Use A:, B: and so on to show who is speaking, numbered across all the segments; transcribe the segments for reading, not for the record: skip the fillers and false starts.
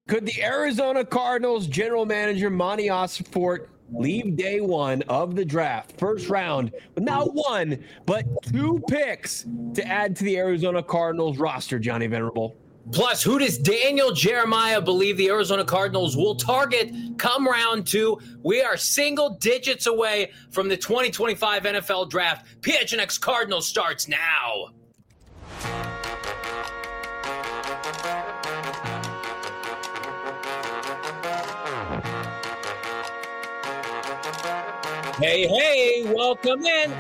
A: Could the Arizona Cardinals general manager Monty Ossenfort leave day one of the draft, first round, with not one, but 2 picks to add to the Arizona Cardinals roster, Johnny Venerable?
B: Plus, who does Daniel Jeremiah believe the Arizona Cardinals will target come round 2? We are single digits away from the 2025 NFL Draft. PHNX Cardinals starts now. Hey, welcome in.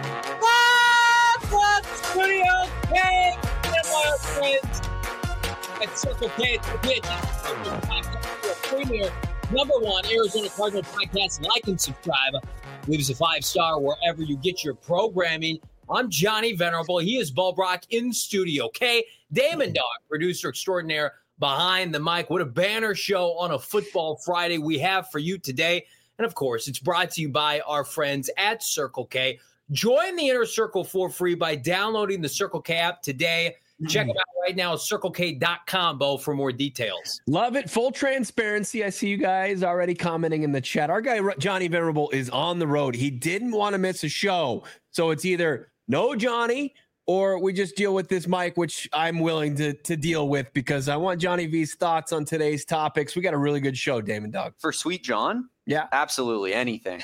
B: What Studio K, my friends. At Circle K, it's the PHNX podcast, premier #1 Arizona Cardinal podcast. Like and subscribe. Leave us a 5-star wherever you get your programming. I'm Johnny Venerable. He is Bo Brock in Studio K. Damon Dog, producer extraordinaire behind the mic. What a banner show on a football Friday we have for you today. And of course, it's brought to you by our friends at Circle K. Join the Inner Circle for free by downloading the Circle K app today. Check them out right now at CircleK.com, Bo, for more details.
A: Love it. Full transparency. I see you guys already commenting in the chat. Our guy, Johnny Venerable, is on the road. He didn't want to miss a show. So it's either no Johnny or we just deal with this mic, which I'm willing to deal with because I want Johnny V's thoughts on today's topics. We got a really good show, Damon Dog.
C: For Sweet John?
A: Yeah.
C: Absolutely. Anything.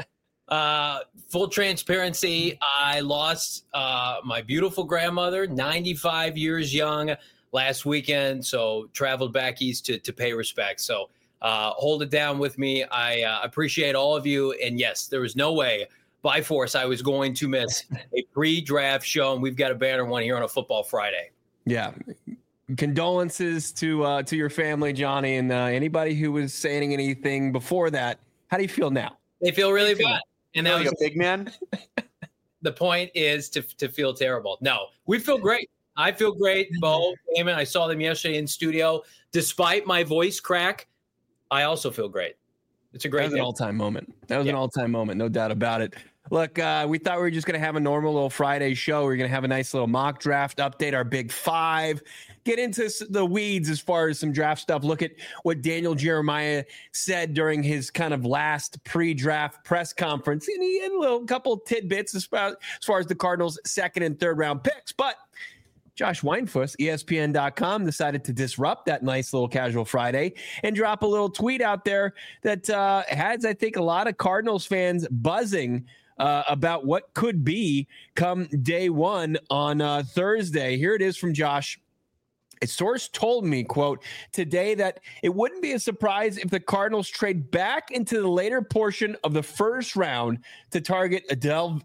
B: Full transparency, I lost my beautiful grandmother, 95 years young, last weekend, so traveled back east to pay respect. So hold it down with me. I appreciate all of you. And yes, there was no way by force I was going to miss a pre-draft show, and we've got a banner one here on a Football Friday.
A: Yeah. Condolences to your family, Johnny, and anybody who was saying anything before that. How do you feel now?
B: They feel really bad. And that was
C: a big man.
B: The point is to feel terrible. No, we feel great. I feel great. Bo, Damon, I saw them yesterday in studio. Despite my voice crack, I also feel great. It's a great
A: That was an all-time moment. That was an all-time moment, no doubt about it. Look, we thought we were just going to have a normal little Friday show. We're going to have a nice little mock draft update, our big 5, get into the weeds as far as some draft stuff. Look at what Daniel Jeremiah said during his kind of last pre-draft press conference. And he had a couple tidbits as far as the Cardinals' 2nd and 3rd round picks. But Josh Weinfuss, ESPN.com, decided to disrupt that nice little casual Friday and drop a little tweet out there that has, I think, a lot of Cardinals fans buzzing about what could be come day one on Thursday. Here it is from Josh. A source told me, quote, today that it wouldn't be a surprise if the Cardinals trade back into the later portion of the first round to target a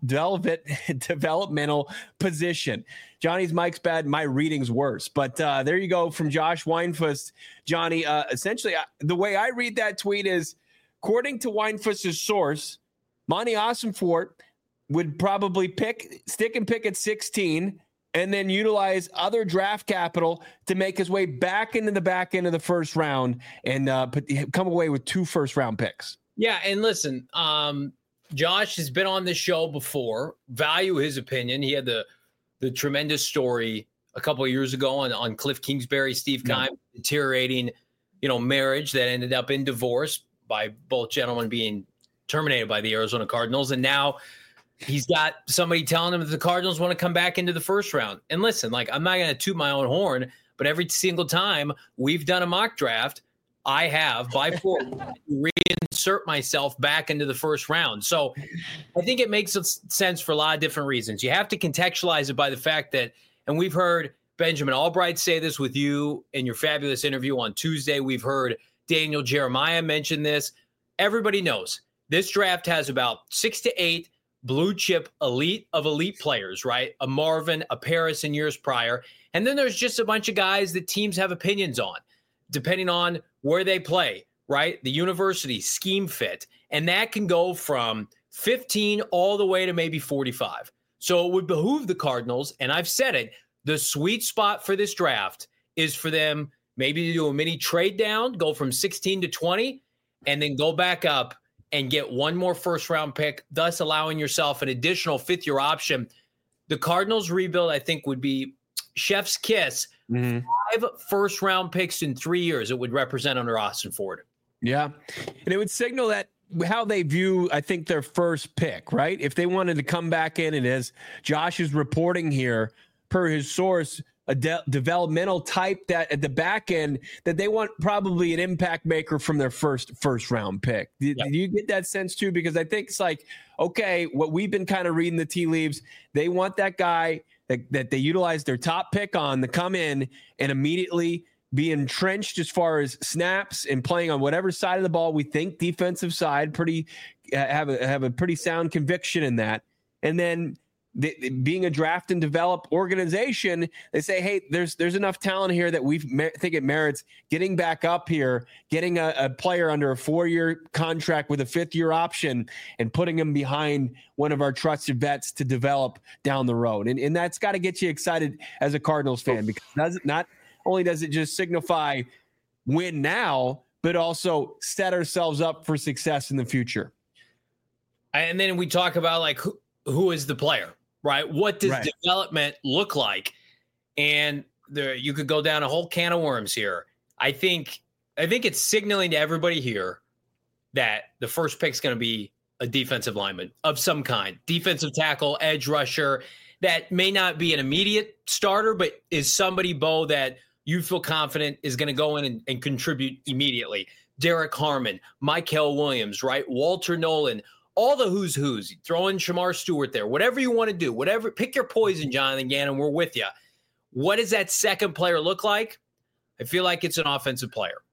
A: developmental position. Johnny's mic's bad. My reading's worse. But there you go from Josh Weinfuss. Johnny, essentially, the way I read that tweet is, according to Weinfuss's source, Monty Ossenfort would probably stick and pick at 16 and then utilize other draft capital to make his way back into the back end of the first round and come away with 2 first-round picks.
B: Yeah, and listen, Josh has been on this show before. Value his opinion. He had the tremendous story a couple of years ago on Cliff Kingsbury, Steve Keim, deteriorating, marriage that ended up in divorce by both gentlemen being terminated by the Arizona Cardinals. And now he's got somebody telling him that the Cardinals want to come back into the first round. And listen, I'm not going to toot my own horn, but every single time we've done a mock draft, I have by force reinsert myself back into the first round. So I think it makes sense for a lot of different reasons. You have to contextualize it by the fact that, and we've heard Benjamin Albright say this with you in your fabulous interview on Tuesday. We've heard Daniel Jeremiah mention this. Everybody knows this draft has about 6 to 8 blue chip elite players, right? A Marvin, a Paris in years prior. And then there's just a bunch of guys that teams have opinions on, depending on where they play, right? The university, scheme fit. And that can go from 15 all the way to maybe 45. So it would behoove the Cardinals, and I've said it, the sweet spot for this draft is for them maybe to do a mini trade down, go from 16 to 20, and then go back up and get one more first-round pick, thus allowing yourself an additional fifth-year option. The Cardinals rebuild, I think, would be chef's kiss. 5 5 first-round picks in 3 years it would represent under Austin Ford.
A: Yeah. And it would signal that how they view, I think, their first pick, right? If they wanted to come back in, and as Josh is reporting here, per his source, a developmental type that at the back end, that they want probably an impact maker from their first round pick. Do you get that sense too? Because I think it's like, okay, what we've been kind of reading the tea leaves, they want that guy that they utilize their top pick on to come in and immediately be entrenched as far as snaps and playing on whatever side of the ball we think, defensive side, have a pretty sound conviction in that. And then being a draft and develop organization, they say, hey, there's enough talent here that we think it merits getting back up here, getting a player under a 4-year contract with a 5th-year option and putting him behind one of our trusted vets to develop down the road. And that's got to get you excited as a Cardinals fan, because not only does it just signify win now, but also set ourselves up for success in the future.
B: And then we talk about like who is the player, right? What does development look like? And you could go down a whole can of worms here. I think it's signaling to everybody here that the first pick is going to be a defensive lineman of some kind, defensive tackle, edge rusher, that may not be an immediate starter, but is somebody, Bo, that you feel confident is going to go in and contribute immediately. Derek Harmon, Mykel Williams, right? Walter Nolan, all the who's. Throw in Shamar Stewart there. Whatever you want to do, pick your poison, Jonathan Gannon. We're with you. What does that second player look like? I feel like it's an offensive player.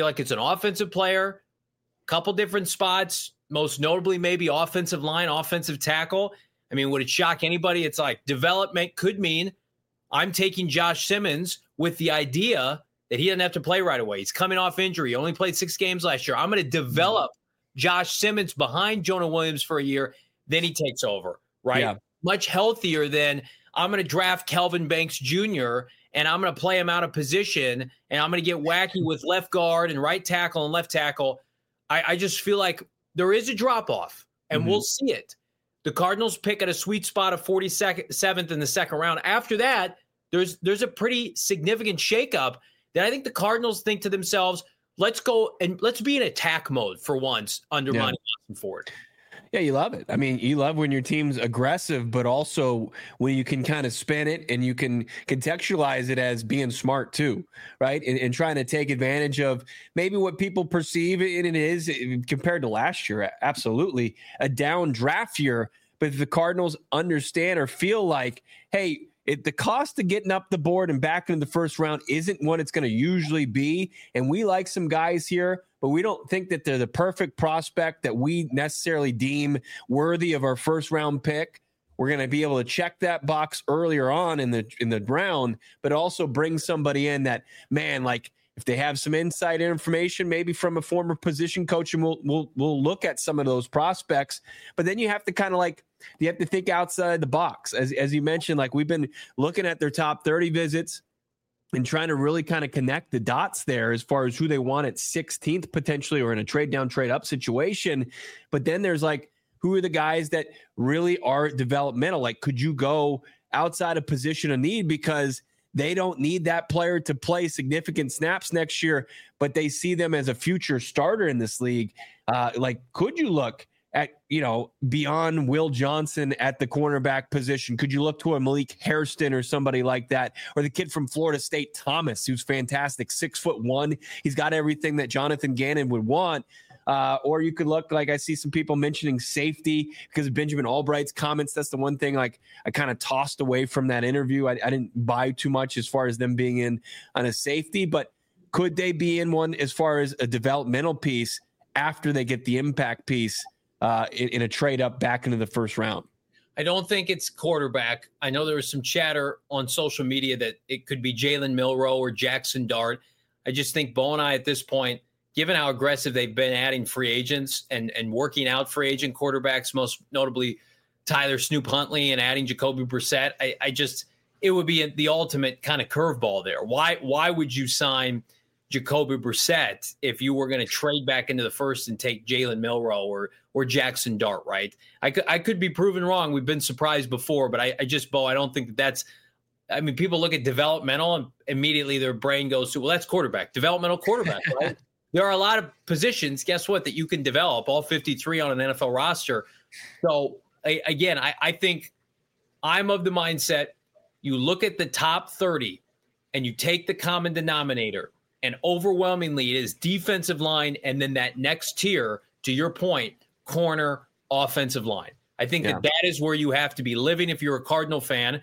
B: Couple different spots, most notably maybe offensive line, offensive tackle. I mean, would it shock anybody? It's like development could mean I'm taking Josh Simmons with the idea that he doesn't have to play right away. He's coming off injury. He only played 6 games last year. I'm going to develop Josh Simmons behind Jonah Williams for a year. Then he takes over, right? Yeah. Much healthier than I'm going to draft Kelvin Banks Jr. and I'm going to play him out of position and I'm going to get wacky with left guard and right tackle and left tackle. I just feel like there is a drop-off, and we'll see it. The Cardinals pick at a sweet spot of 47th in the second round. After that, there's a pretty significant shakeup that I think the Cardinals think to themselves, let's go and let's be in attack mode for once under Monty Ford.
A: Yeah, you love it. I mean, you love when your team's aggressive, but also when you can kind of spin it and you can contextualize it as being smart too, right? And trying to take advantage of maybe what people perceive it is compared to last year. Absolutely a down draft year. But if the Cardinals understand or feel like, hey, the cost of getting up the board and back into the first round isn't what it's going to usually be. And we like some guys here, but we don't think that they're the perfect prospect that we necessarily deem worthy of our first round pick. We're going to be able to check that box earlier on in the round, but also bring somebody in that, man, like if they have some inside information, maybe from a former position coach, and we'll look at some of those prospects. But then you have to kind of like, you have to think outside the box. As you mentioned, like we've been looking at their top 30 visits and trying to really kind of connect the dots there as far as who they want at 16th potentially, or in a trade down, trade up situation. But then there's like, who are the guys that really are developmental? Like, could you go outside of position of need because they don't need that player to play significant snaps next year, but they see them as a future starter in this league? Like, could you look at, beyond Will Johnson at the cornerback position? Could you look to a Malik Hairston or somebody like that? Or the kid from Florida State, Thomas, who's fantastic, 6'1". He's got everything that Jonathan Gannon would want. Or you could look, like I see some people mentioning safety because of Benjamin Albright's comments. That's the one thing like I kind of tossed away from that interview. I didn't buy too much as far as them being in on a safety, but could they be in one as far as a developmental piece after they get the impact piece in a trade up back into the first round?
B: I don't think it's quarterback. I know there was some chatter on social media that it could be Jalen Milroe or Jackson Dart. I just think Bo and I at this point, given how aggressive they've been adding free agents and working out free agent quarterbacks, most notably Tyler Snoop Huntley and adding Jacoby Brissett, it would be the ultimate kind of curveball there. Why would you sign Jacoby Brissett if you were going to trade back into the first and take Jalen Milroe or Jackson Dart, right? I could be proven wrong. We've been surprised before, but I don't think that's I mean, people look at developmental and immediately their brain goes to, well, that's quarterback, developmental quarterback, right? There are a lot of positions, guess what, that you can develop, all 53 on an NFL roster. So, again, I think I'm of the mindset you look at the top 30 and you take the common denominator, and overwhelmingly it is defensive line and then that next tier, to your point, corner, offensive line. I think that is where you have to be living if you're a Cardinal fan.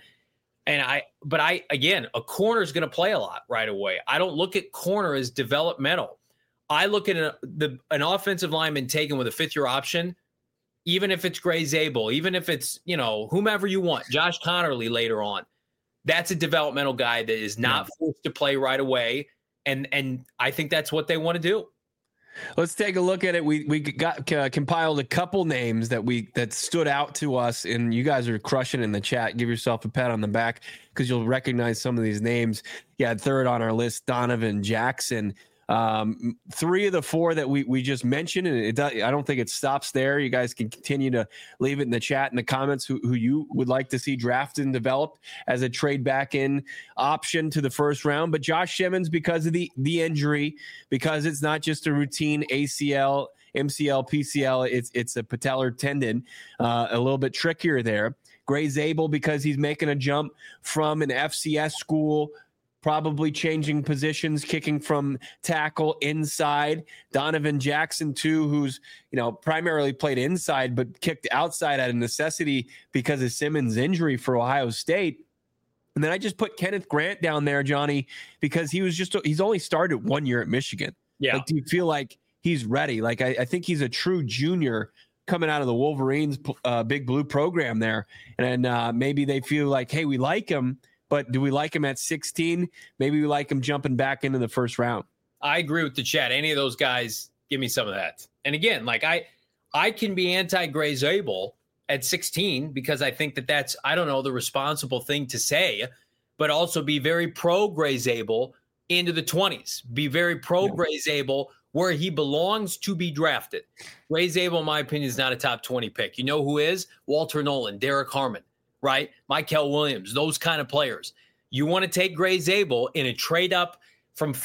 B: But again, a corner is going to play a lot right away. I don't look at corner as developmental. I look at an offensive lineman taken with a fifth-year option, even if it's Gray Zabel, even if it's, whomever you want, Josh Connerly later on. That's a developmental guy that is not forced to play right away. And I think that's what they want to do.
A: Let's take a look at it. We got compiled a couple names that stood out to us, and you guys are crushing in the chat. Give yourself a pat on the back because you'll recognize some of these names. Yeah, third on our list, Donovan Jackson. Three of the four that we just mentioned, and I don't think it stops there. You guys can continue to leave it in the chat in the comments who you would like to see drafted and developed as a trade back in option to the first round. But Josh Simmons, because of the injury, because it's not just a routine ACL, MCL, PCL, it's a patellar tendon, a little bit trickier there. Gray Zabel, because he's making a jump from an FCS school, probably changing positions, kicking from tackle inside. Donovan Jackson, too, who's, primarily played inside, but kicked outside out of necessity because of Simmons' injury for Ohio State. And then I just put Kenneth Grant down there, Johnny, because he's only started 1 year at Michigan. Yeah. Like, do you feel like he's ready? Like, I think he's a true junior coming out of the Wolverines Big Blue program there. And maybe they feel like, hey, we like him, but do we like him at 16? Maybe we like him jumping back into the first round.
B: I agree with the chat. Any of those guys, give me some of that. And again, like I can be anti-Gray Zabel at 16 because I think that's, I don't know, the responsible thing to say, but also be very pro-Gray Zabel into the 20s. Be very pro-Gray Zabel where he belongs to be drafted. Gray Zabel, in my opinion, is not a top 20 pick. You know who is? Walter Nolan, Derek Harmon. Right? Michael Williams, those kind of players. You want to take Gray Zabel in a trade up from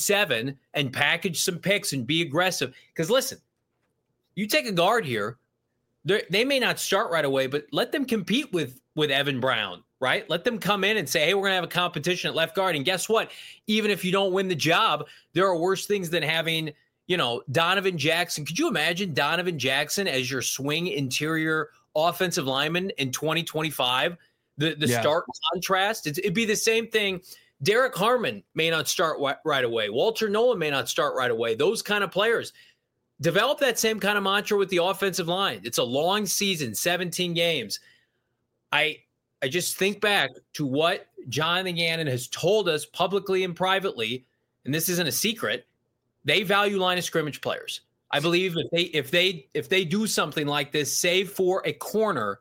B: 47 and package some picks and be aggressive. Because listen, you take a guard here, they may not start right away, but let them compete with Evan Brown, right? Let them come in and say, hey, we're going to have a competition at left guard. And guess what? Even if you don't win the job, there are worse things than having, Donovan Jackson. Could you imagine Donovan Jackson as your swing interior offensive lineman in 2025, the stark contrast, it'd be the same thing. Derek Harmon may not start right away. Walter Nolan may not start right away. Those kind of players. Develop that same kind of mantra with the offensive line. It's a long season, 17 games. I just think back to what Jonathan Gannon has told us publicly and privately, and this isn't a secret. They value line of scrimmage players. I believe if they do something like this, save for a corner,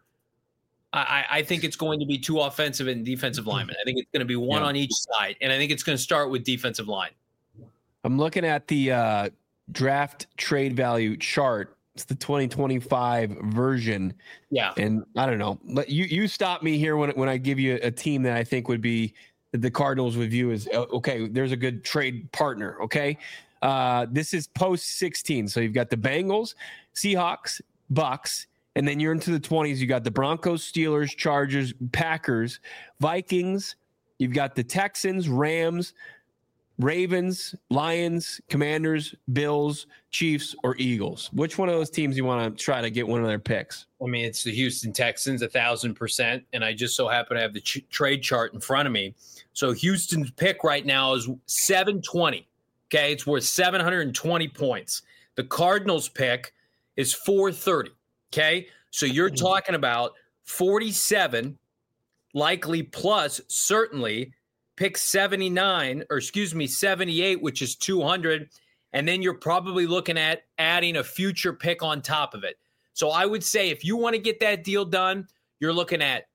B: I think it's going to be two offensive and defensive linemen. I think it's going to be one on each side, and I think it's going to start with defensive line.
A: I'm looking at the draft trade value chart. It's the 2025 version. Yeah, and I don't know. You stop me here when I give you a team that I think would be the Cardinals would view as okay. There's a good trade partner. Okay. This is post 16. So you've got the Bengals, Seahawks, Bucks, and then you're into the 20s. You got the Broncos, Steelers, Chargers, Packers, Vikings. You've got the Texans, Rams, Ravens, Lions, Commanders, Bills, Chiefs, or Eagles. Which one of those teams you want to try to get one of their picks?
B: I mean, it's the Houston Texans, 1,000%. And I just so happen to have the trade chart in front of me. So Houston's pick right now is 720. Okay, it's worth 720 points. The Cardinals pick is 430. Okay, so you're talking about 47, likely plus certainly pick 78, which is 200. And then you're probably looking at adding a future pick on top of it. So I would say if you want to get that deal done, you're looking at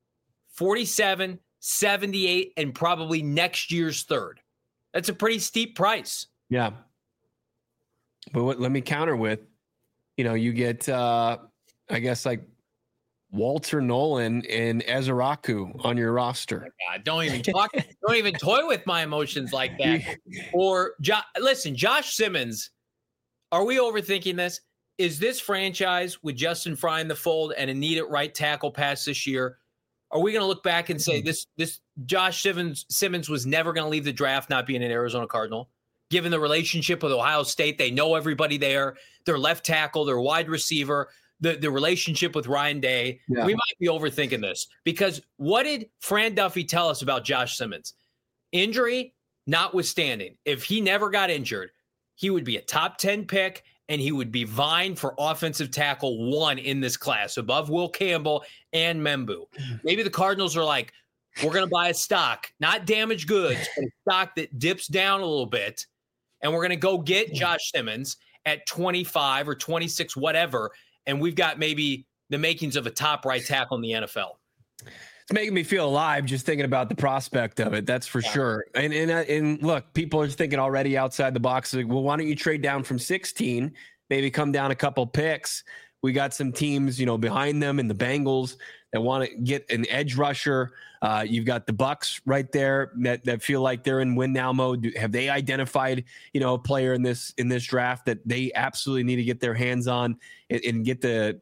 B: 47, 78, and probably next year's third. That's a pretty steep price.
A: Yeah. But let me counter with, you get, I guess, like Walter Nolan and Ezeraku on your roster.
B: God, don't even toy with my emotions like that. Or listen, Josh Simmons, are we overthinking this? Is this franchise with Justin Fry in the fold and a need at right tackle pass this year? Are we going to look back and say this Josh Simmons was never going to leave the draft not being an Arizona Cardinal? Given the relationship with Ohio State, they know everybody there. Their left tackle, their wide receiver, the relationship with Ryan Day. Yeah. We might be overthinking this because what did Fran Duffy tell us about Josh Simmons? Injury notwithstanding, if he never got injured, he would be a top 10 pick and he would be vying for offensive tackle 1 in this class above Will Campbell and Membu. Maybe the Cardinals are like, we're going to buy a stock, not damaged goods, but a stock that dips down a little bit. And we're going to go get Josh Simmons at 25 or 26, whatever. And we've got maybe the makings of a top right tackle in the NFL.
A: It's making me feel alive just thinking about the prospect of it. That's for sure. And look, people are thinking already outside the box. Like, well, why don't you trade down from 16, maybe come down a couple picks? We got some teams, behind them in the Bengals that want to get an edge rusher. You've got the Bucks right there that feel like they're in win now mode. Have they identified, a player in this draft that they absolutely need to get their hands on and get the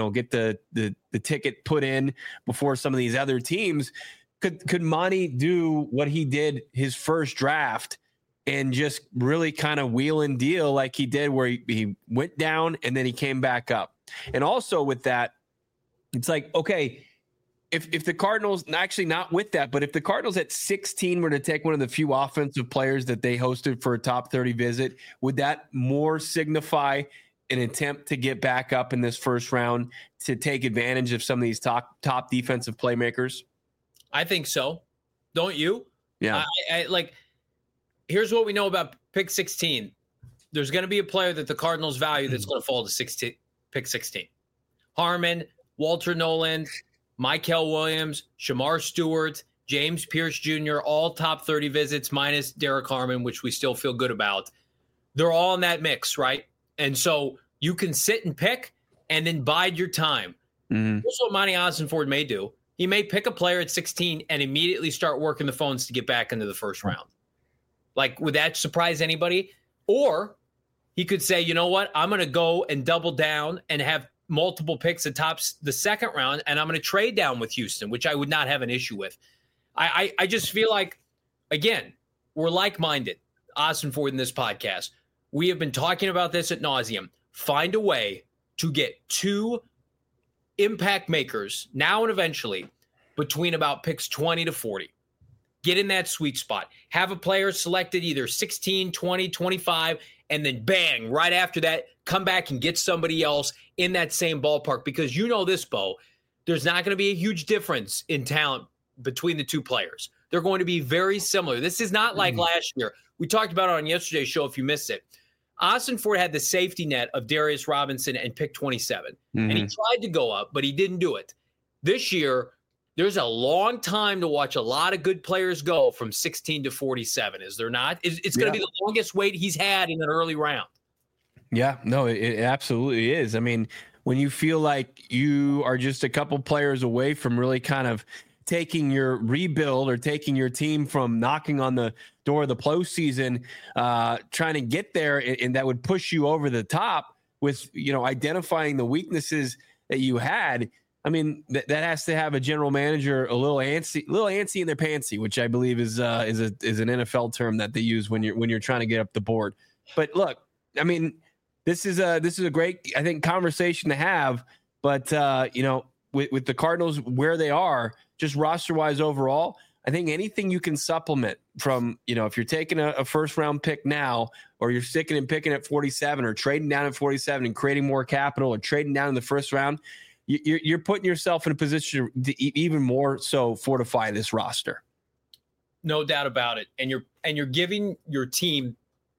A: ticket put in before some of these other teams? Could Monty do what he did his first draft and just really kind of wheel and deal like he did, where he went down and then he came back up? And also with that, it's like, okay, if the Cardinals, actually not with that, but if the Cardinals at 16 were to take one of the few offensive players that they hosted for a top 30 visit, would that more signify an attempt to get back up in this first round to take advantage of some of these top defensive playmakers?
B: I think so. Don't you?
A: Yeah.
B: I like, here's what we know about pick 16. There's going to be a player that the Cardinals value that's going to fall to pick 16. Harmon, Walter Nolan, Michael Williams, Shamar Stewart, James Pierce Jr., all top 30 visits minus Derek Harmon, which we still feel good about. They're all in that mix, right? And so you can sit and pick and then bide your time. Mm-hmm. Here's what Monty Ossenford may do. He may pick a player at 16 and immediately start working the phones to get back into the first round. Like, would that surprise anybody? Or he could say, you know what? I'm going to go and double down and have multiple picks at tops the second round, and I'm going to trade down with Houston, which I would not have an issue with. I just feel like, again, we're like-minded, Ossenford in this podcast. We have been talking about this ad nauseum. Find a way to get 2 impact makers now and eventually between about picks 20 to 40. Get in that sweet spot. Have a player selected either 16, 20, 25, and then bang, right after that, come back and get somebody else in that same ballpark. Because you know this, Bo, there's not going to be a huge difference in talent between the 2 players. They're going to be very similar. This is not like last year. We talked about it on yesterday's show if you missed it. Ossenford had the safety net of Darius Robinson and pick 27. And he tried to go up, but he didn't do it. This year, there's a long time to watch a lot of good players go from 16 to 47, is there not? It's going to be the longest wait he's had in an early round.
A: Yeah, no, it absolutely is. I mean, when you feel like you are just a couple players away from really kind of taking your rebuild or taking your team from knocking on the door of the postseason, trying to get there, and that would push you over the top with, identifying the weaknesses that you had. I mean, that has to have a general manager a little antsy in their pantsy, which I believe is an NFL term that they use when you're trying to get up the board. But look, I mean, this is a great, I think, conversation to have. But with the Cardinals where they are, just roster wise overall, I think anything you can supplement from, if you're taking a first round pick now, or you're sticking and picking at 47, or trading down at 47 and creating more capital, or trading down in the first round, you're putting yourself in a position to even more so fortify this roster.
B: No doubt about it. And you're giving your team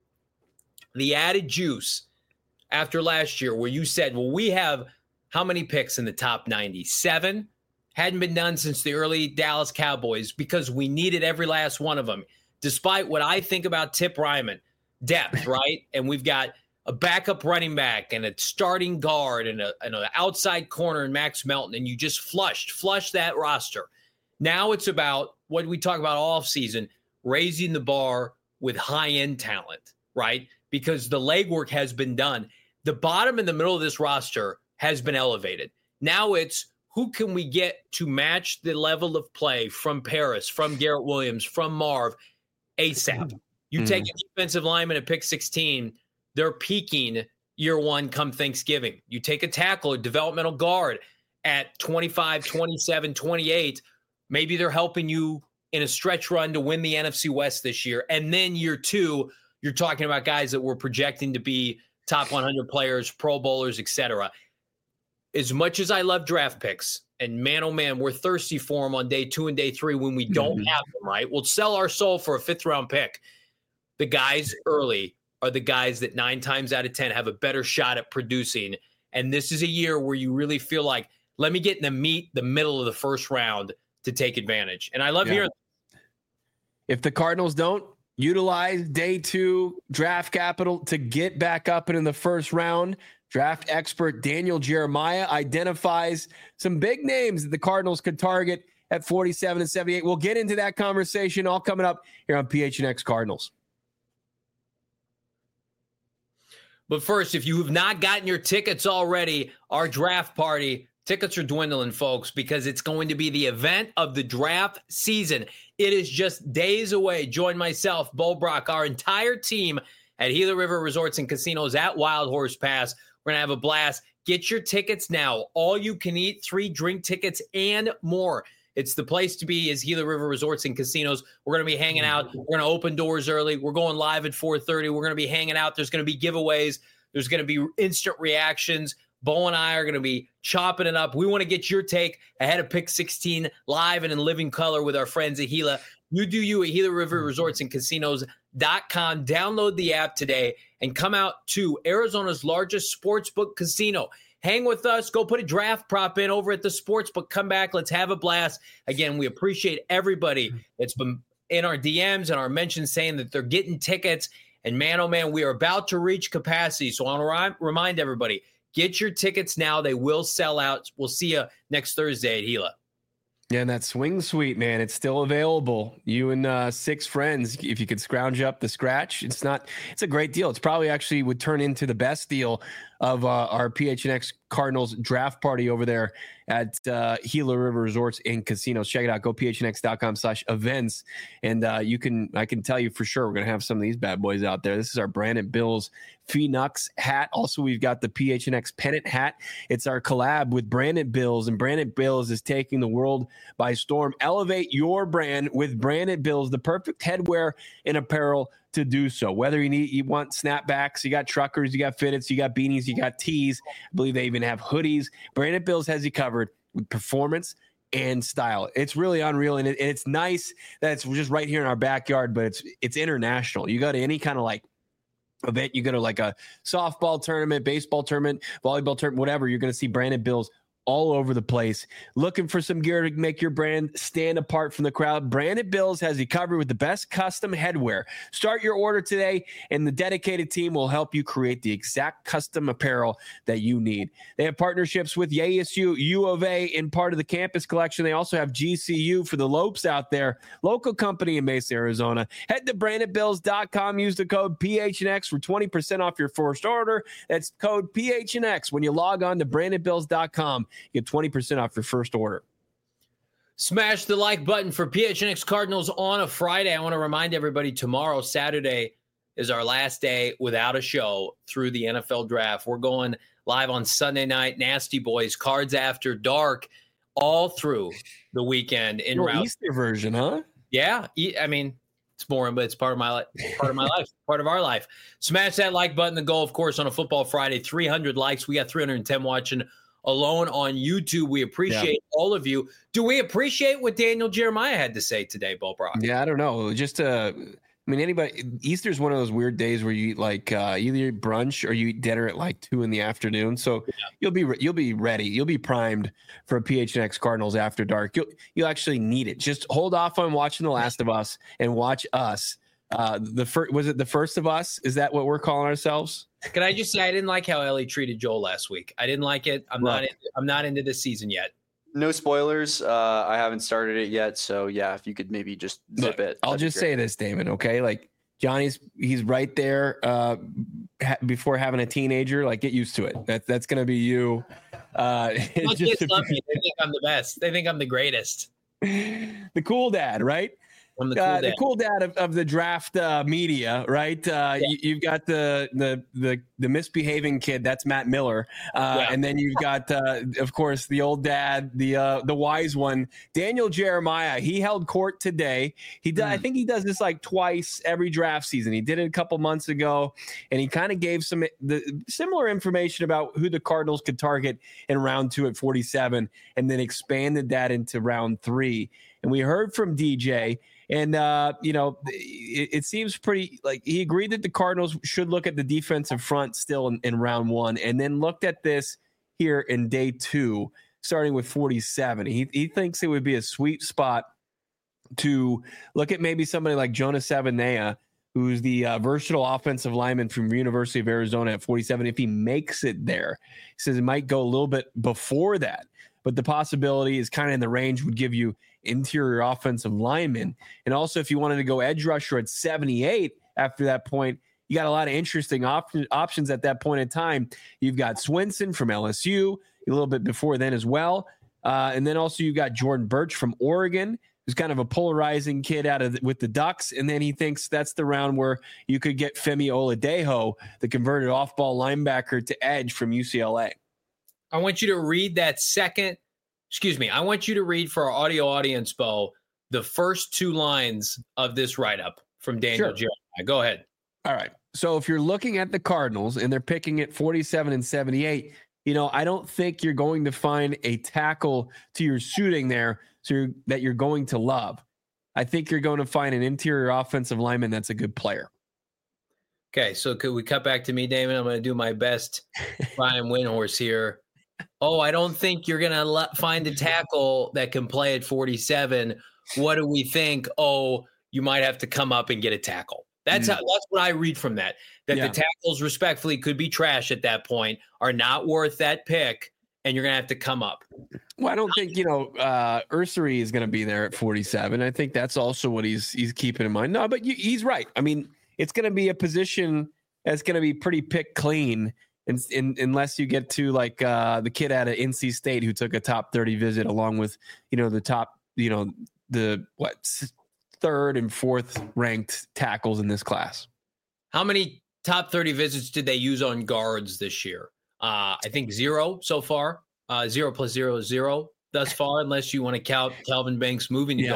B: the added juice after last year, where you said, well, we have how many picks in the top 97? Hadn't been done since the early Dallas Cowboys, because we needed every last one of them. Despite what I think about Tip Ryman, depth, right? And we've got a backup running back and a starting guard and an outside corner in Max Melton, and you just flush that roster. Now it's about what we talk about all season, raising the bar with high-end talent, right? Because the legwork has been done. The bottom and the middle of this roster has been elevated. Now it's who can we get to match the level of play from Paris, from Garrett Williams, from Marv ASAP. You take a defensive lineman at pick 16, they're peaking year one come Thanksgiving. You take a tackle, a developmental guard at 25, 27, 28, maybe they're helping you in a stretch run to win the NFC West this year. And then year two, you're talking about guys that we're projecting to be top 100 players, Pro Bowlers, etc. As much as I love draft picks, and man, oh man, we're thirsty for them on day 2 and day 3 when we don't have them, right? We'll sell our soul for a 5th-round pick. The guys early are the guys that 9 times out of 10 have a better shot at producing. And this is a year where you really feel like, let me get in the middle of the first round to take advantage. And I love hearing that.
A: If the Cardinals don't utilize day 2 draft capital to get back up in the first round, draft expert Daniel Jeremiah identifies some big names that the Cardinals could target at 47 and 78. We'll get into that conversation all coming up here on PHNX Cardinals.
B: But first, if you have not gotten your tickets already, our draft party, tickets are dwindling, folks, because it's going to be the event of the draft season. It is just days away. Join myself, Bo Brock, our entire team at Gila River Resorts and Casinos at Wild Horse Pass. We're going to have a blast. Get your tickets now. All you can eat, 3 drink tickets, and more. It's the place to be is Gila River Resorts and Casinos. We're going to be hanging out. We're going to open doors early. We're going live at 4:30. We're going to be hanging out. There's going to be giveaways. There's going to be instant reactions. Bo and I are going to be chopping it up. We want to get your take ahead of pick 16 live and in living color with our friends at Gila. You do you at Gila River Resorts and Casinos.com. Download the app today and come out to Arizona's largest sportsbook casino. Hang with us. Go put a draft prop in over at the sportsbook. Come back. Let's have a blast. Again, we appreciate everybody that's been in our DMs and our mentions saying that they're getting tickets. And man, oh man, we are about to reach capacity. So I want to remind everybody, get your tickets now. They will sell out. We'll see you next Thursday at Gila.
A: Yeah, and that swing suite, man, it's still available. You and 6 friends, if you could scrounge up the scratch, it's a great deal. It's probably actually would turn into the best deal of our PHNX Cardinals draft party over there at Gila River Resorts and Casinos. Check it out. Go phnx.com/events. And I can tell you for sure, we're going to have some of these bad boys out there. This is our Brandon Bills Phoenix hat. Also, we've got the PHNX pennant hat. It's our collab with Brandon Bills, and Brandon Bills is taking the world by storm. Elevate your brand with Brandon Bills, the perfect headwear and apparel to do so. Whether you want snapbacks, you got truckers, you got fitteds, you got beanies, you got tees. I believe they even have hoodies. Brandon Bills has you covered with performance and style. It's really unreal, and it's nice that it's just right here in our backyard, but it's international. You go to any kind of like event, you go to like a softball tournament, baseball tournament, volleyball tournament, whatever, you're going to see Brandon Bills all over the place. Looking for some gear to make your brand stand apart from the crowd? Brandon Bills has you covered with the best custom headwear. Start your order today, and the dedicated team will help you create the exact custom apparel that you need. They have partnerships with ASU, U of A in part of the campus collection. They also have GCU for the Lopes out there, local company in Mesa, Arizona. Head to BrandonBills.com. Use the code PHNX for 20% off your first order. That's code PHNX when you log on to BrandonBills.com. Get 20% off your first order.
B: Smash the like button for PHNX Cardinals on a Friday. I want to remind everybody tomorrow, Saturday, is our last day without a show through the NFL draft. We're going live on Sunday night. Nasty Boys, Cards After Dark, all through the weekend in route.
A: Easter version, huh?
B: Yeah. I mean, it's boring, but it's part of my life, part of our life. Smash that like button. The goal, of course, on a Football Friday, 300 likes. We got 310 watching alone on YouTube. We appreciate all of you. Do we appreciate what Daniel Jeremiah had to say today, Bo Brock?
A: Yeah, I don't know. Just anybody. Easter's one of those weird days where you eat like either brunch or you eat dinner at like 2 p.m. So you'll be ready. You'll be primed for a PHNX Cardinals After Dark. You'll actually need it. Just hold off on watching The Last of Us and watch us The first, was it The First of Us? Is that what we're calling ourselves?
B: Can I just say I didn't like how Ellie treated Joel last week. I didn't like it. I'm not into this season yet.
C: No spoilers. I haven't started it yet, so yeah, if you could maybe just zip it.
A: I'll just say this, Damon. Okay, like he's right there before having a teenager. Like, get used to it. That's gonna be you.
B: My kids love me. They think I'm the best. They think I'm the greatest.
A: The cool dad, right?
B: I'm the cool dad.
A: The cool dad of the draft media, right? You've got the misbehaving kid. That's Matt Miller, and then you've got, of course, the old dad, the wise one, Daniel Jeremiah. He held court today. I think he does this like twice every draft season. He did it a couple months ago, and he kind of gave some similar information about who the Cardinals could target in round 2 at 47, and then expanded that into round 3. And we heard from DJ. And, it seems pretty like he agreed that the Cardinals should look at the defensive front still in round 1, and then looked at this here in day 2, starting with 47. He thinks it would be a sweet spot to look at maybe somebody like Jonas Savaiinaea, who's the versatile offensive lineman from University of Arizona at 47. If he makes it there, he says it might go a little bit before that, but the possibility is kind of in the range, would give you interior offensive lineman. And also, if you wanted to go edge rusher at 78 after that point, you got a lot of interesting options at that point in time. You've got Swinson from LSU a little bit before then as well. And then also you've got Jordan Birch from Oregon, who's kind of a polarizing kid with the Ducks. And then he thinks that's the round where you could get Femi Oladejo, the converted off-ball linebacker, to edge from UCLA.
B: I want you to read I want you to read for our audio audience, Bo, the first 2 lines of this write-up from Daniel Jeremiah. Go ahead.
A: All right. So if you're looking at the Cardinals and they're picking at 47 and 78, I don't think you're going to find a tackle to your suiting there that you're going to love. I think you're going to find an interior offensive lineman that's a good player.
B: Okay, so could we cut back to me, Damon? I'm going to do my best Brian Windhorse here. Oh, I don't think you're going to find a tackle that can play at 47. What do we think? Oh, you might have to come up and get a tackle. That's what I read from that. The tackles, respectfully, could be trash at that point, are not worth that pick, and you're going to have to come up.
A: Well, I don't think, Ursary is going to be there at 47. I think that's also what he's keeping in mind. No, but he's right. I mean, it's going to be a position that's going to be pretty pick clean. Unless you get to like the kid out of NC State who took a top 30 visit along with, the top, the 3rd and 4th ranked tackles in this class.
B: How many top 30 visits did they use on guards this year? I think 0 so far. 0 plus 0 is 0 thus far, unless you want to count Kelvin Banks moving to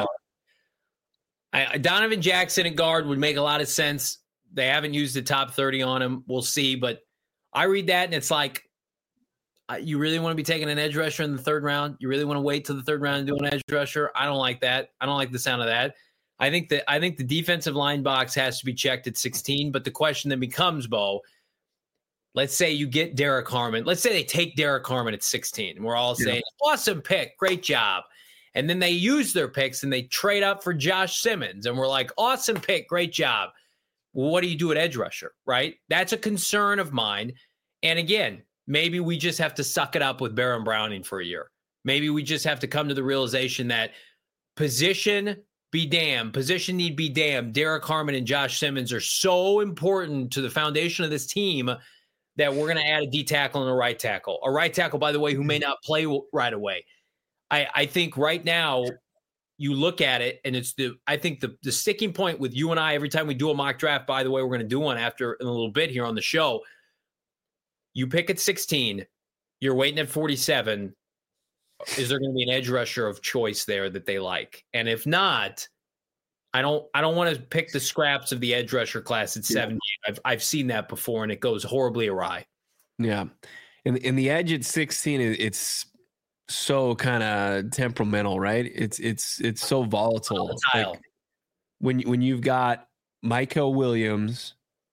B: guard. Donovan Jackson at guard would make a lot of sense. They haven't used the top 30 on him. We'll see, but I read that and it's like, you really want to be taking an edge rusher in the 3rd round? You really want to wait till the 3rd round and do an edge rusher? I don't like that. I don't like the sound of that. I think the defensive line box has to be checked at 16. But the question then becomes, Bo, let's say you get Derek Harmon. Let's say they take Derek Harmon at 16. And we're all saying, awesome pick, great job. And then they use their picks and they trade up for Josh Simmons. And we're like, awesome pick, great job. Well, what do you do at edge rusher, right? That's a concern of mine. And again, maybe we just have to suck it up with Baron Browning for a year. Maybe we just have to come to the realization that position need be damned. Derek Harmon and Josh Simmons are so important to the foundation of this team that we're going to add a D tackle and a right tackle. A right tackle, by the way, who may not play right away. I think right now you look at it, and I think the sticking point with you and I every time we do a mock draft, by the way, we're going to do one after in a little bit here on the show. You pick at 16, you're waiting at 47. Is there going to be an edge rusher of choice there that they like? And if not, I don't want to pick the scraps of the edge rusher class at 70. I've seen that before, and it goes horribly awry. Yeah.
A: In the edge at 16, it's so kind of temperamental, right? It's so volatile. Like when you've got Michael Williams,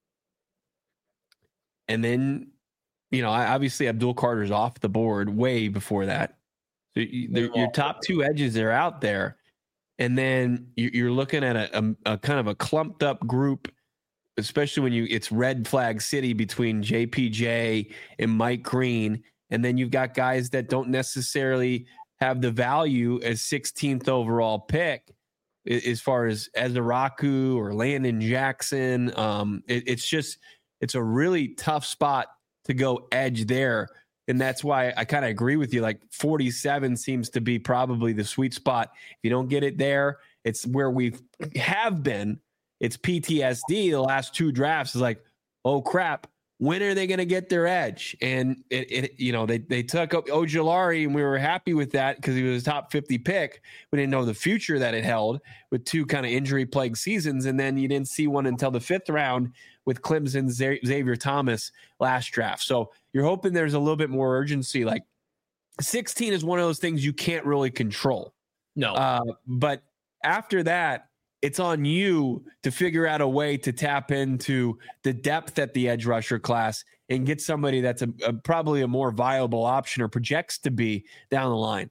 A: and then obviously Abdul Carter's off the board way before that. So your top 2 edges are out there. and then you're looking at a kind of a clumped up group, especially when it's red flag city between JPJ and Mike Green. And then you've got guys that don't necessarily have the value as 16th overall pick as far as Ezaraku or Landon Jackson. It's a really tough spot to go edge there. And that's why I kind of agree with you. Like 47 seems to be probably the sweet spot. If you don't get it there, it's where we have been. It's PTSD. The last two drafts is like, oh crap, when are they going to get their edge? And they took up Ojulari, and we were happy with that because he was a top 50 pick. We didn't know the future that it held with two kind of injury plagued seasons. And then you didn't see one until the 5th round with Clemson Xavier Thomas last draft. So you're hoping there's a little bit more urgency. Like 16 is one of those things you can't really control.
B: No.
A: But after that, it's on you to figure out a way to tap into the depth at the edge rusher class and get somebody that's probably a more viable option or projects to be down the line.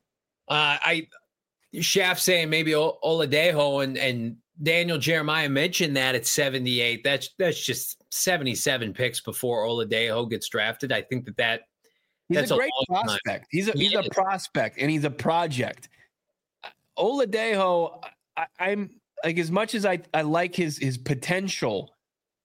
B: Shaft saying maybe Oladejo and Daniel Jeremiah mentioned that at 78. That's just 77 picks before Oladejo gets drafted. I think that's
A: a great prospect. He's a prospect and he's a project. Oladejo, I'm like, as much as I like his potential,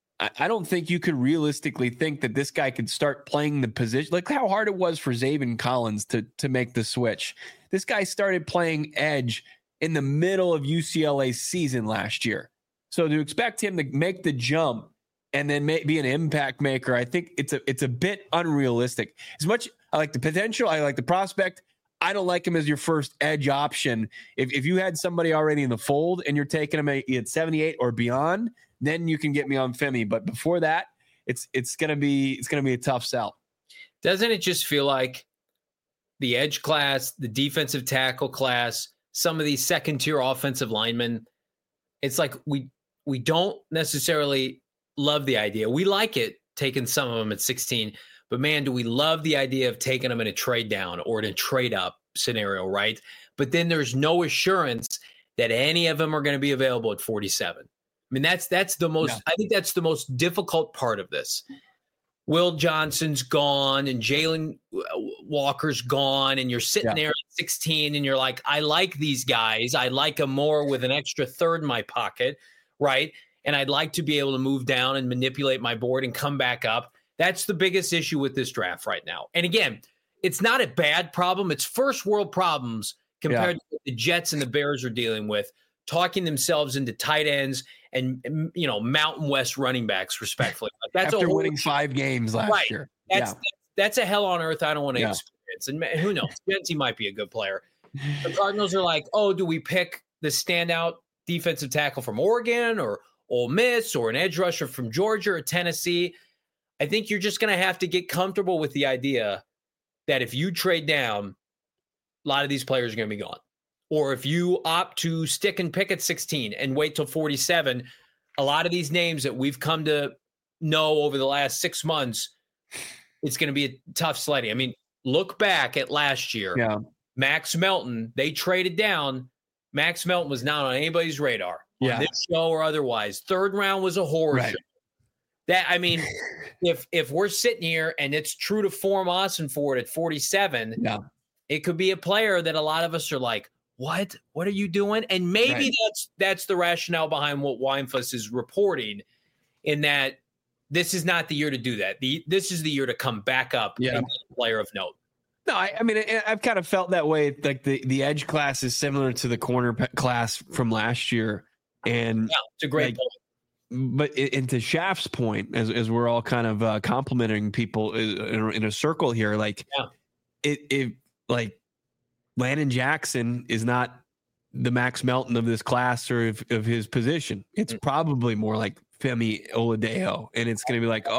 A: I don't think you could realistically think that this guy could start playing the position. Like how hard it was for Zaven Collins to make the switch. This guy started playing edge in the middle of UCLA's season last year. So to expect him to make the jump and then be an impact maker, I think it's a bit unrealistic. As much I like the potential, I like the prospect, I don't like him as your first edge option. If you had somebody already in the fold and you're taking him at 78 or beyond, then you can get me on Femi. But before that, it's gonna be a tough sell.
B: Doesn't it just feel like the edge class, the defensive tackle class, some of these second tier offensive linemen, it's like we don't necessarily love the idea. We like it taking some of them at 16. But, man, do we love the idea of taking them in a trade down or in a trade up scenario, right? But then there's no assurance that any of them are going to be available at 47. I mean, that's the most. Yeah. I think that's the most difficult part of this. Will Johnson's gone and Jalen Walker's gone, and you're sitting there at 16 and you're like, I like these guys. I like them more with an extra third in my pocket, right? And I'd like to be able to move down and manipulate my board and come back up. That's the biggest issue with this draft right now. And again, it's not a bad problem. It's first world problems compared to what the Jets and the Bears are dealing with, talking themselves into tight ends and, Mountain West running backs, respectfully. Like that's
A: after winning 5 games last year.
B: That's a hell on earth I don't want to experience. And who knows? Genty might be a good player. The Cardinals are like, oh, do we pick the standout defensive tackle from Oregon or Ole Miss or an edge rusher from Georgia or Tennessee? I think you're just going to have to get comfortable with the idea that if you trade down, a lot of these players are going to be gone. Or if you opt to stick and pick at 16 and wait till 47, a lot of these names that we've come to know over the last 6 months, it's going to be a tough sledding. I mean, look back at last year.
A: Yeah.
B: Max Melton, they traded down. Max Melton was not on anybody's radar on this show or otherwise. 3rd round was a horror show. That, I mean, if we're sitting here and it's true to form Ossenford at 47, it could be a player that a lot of us are like, what are you doing? And maybe that's the rationale behind what Weinfuss is reporting, in that this is not the year to do that. This is the year to come back up and be a player of note.
A: No, I mean, I've kind of felt that way. Like the edge class is similar to the corner class from last year. And
B: it's a great point.
A: But to Shaft's point, as we're all kind of complimenting people in a circle here, like it like Landon Jackson is not the Max Melton of this class or of his position. It's probably more like Femi Oladejo, and it's going to be like,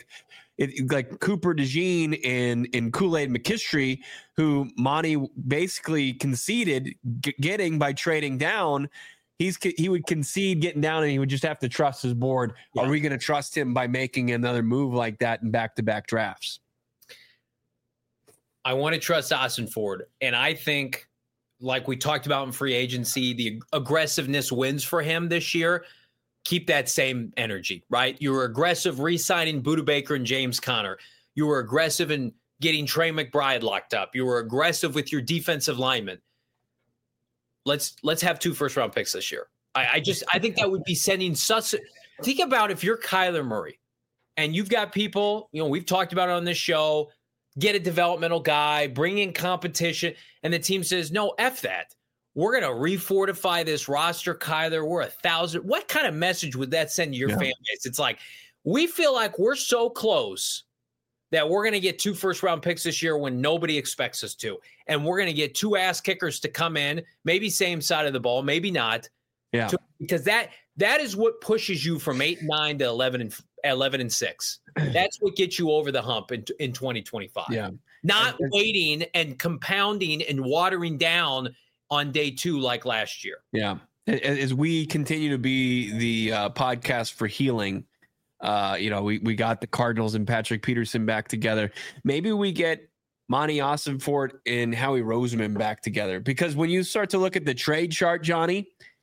A: like Cooper DeJean and Kool-Aid McKinstry, who Monty basically conceded getting by trading down. He would concede getting down, and he would just have to trust his board. Yeah. Are we going to trust him by making another move like that in back-to-back drafts?
B: I want to trust Ossenford, and I think like we talked about in free agency, the aggressiveness wins for him this year. Keep that same energy, right? You were aggressive re-signing Budda Baker and James Conner. You were aggressive in getting Trey McBride locked up. You were aggressive with your defensive linemen. Let's have 2 first-round picks this year. I think that would be sending such – think about if you're Kyler Murray and you've got people, we've talked about it on this show, get a developmental guy, bring in competition, and the team says, no, F that. We're going to refortify this roster, Kyler. We're 1,000. What kind of message would that send to your fan base? It's like, we feel like we're so close that we're going to get 2 first-round picks this year when nobody expects us to. And we're going to get 2 ass kickers to come in, maybe same side of the ball, maybe not.
A: Yeah.
B: Because that is what pushes you from 8-9 to 11-6. That's what gets you over the hump in 2025. Yeah. Not waiting and compounding and watering down on day 2 like last year.
A: Yeah. As we continue to be the podcast for healing, we got the Cardinals and Patrick Peterson back together. Maybe we get Monty Ossenfort and Howie Roseman back together, because when you start to look at the trade chart, Johnny,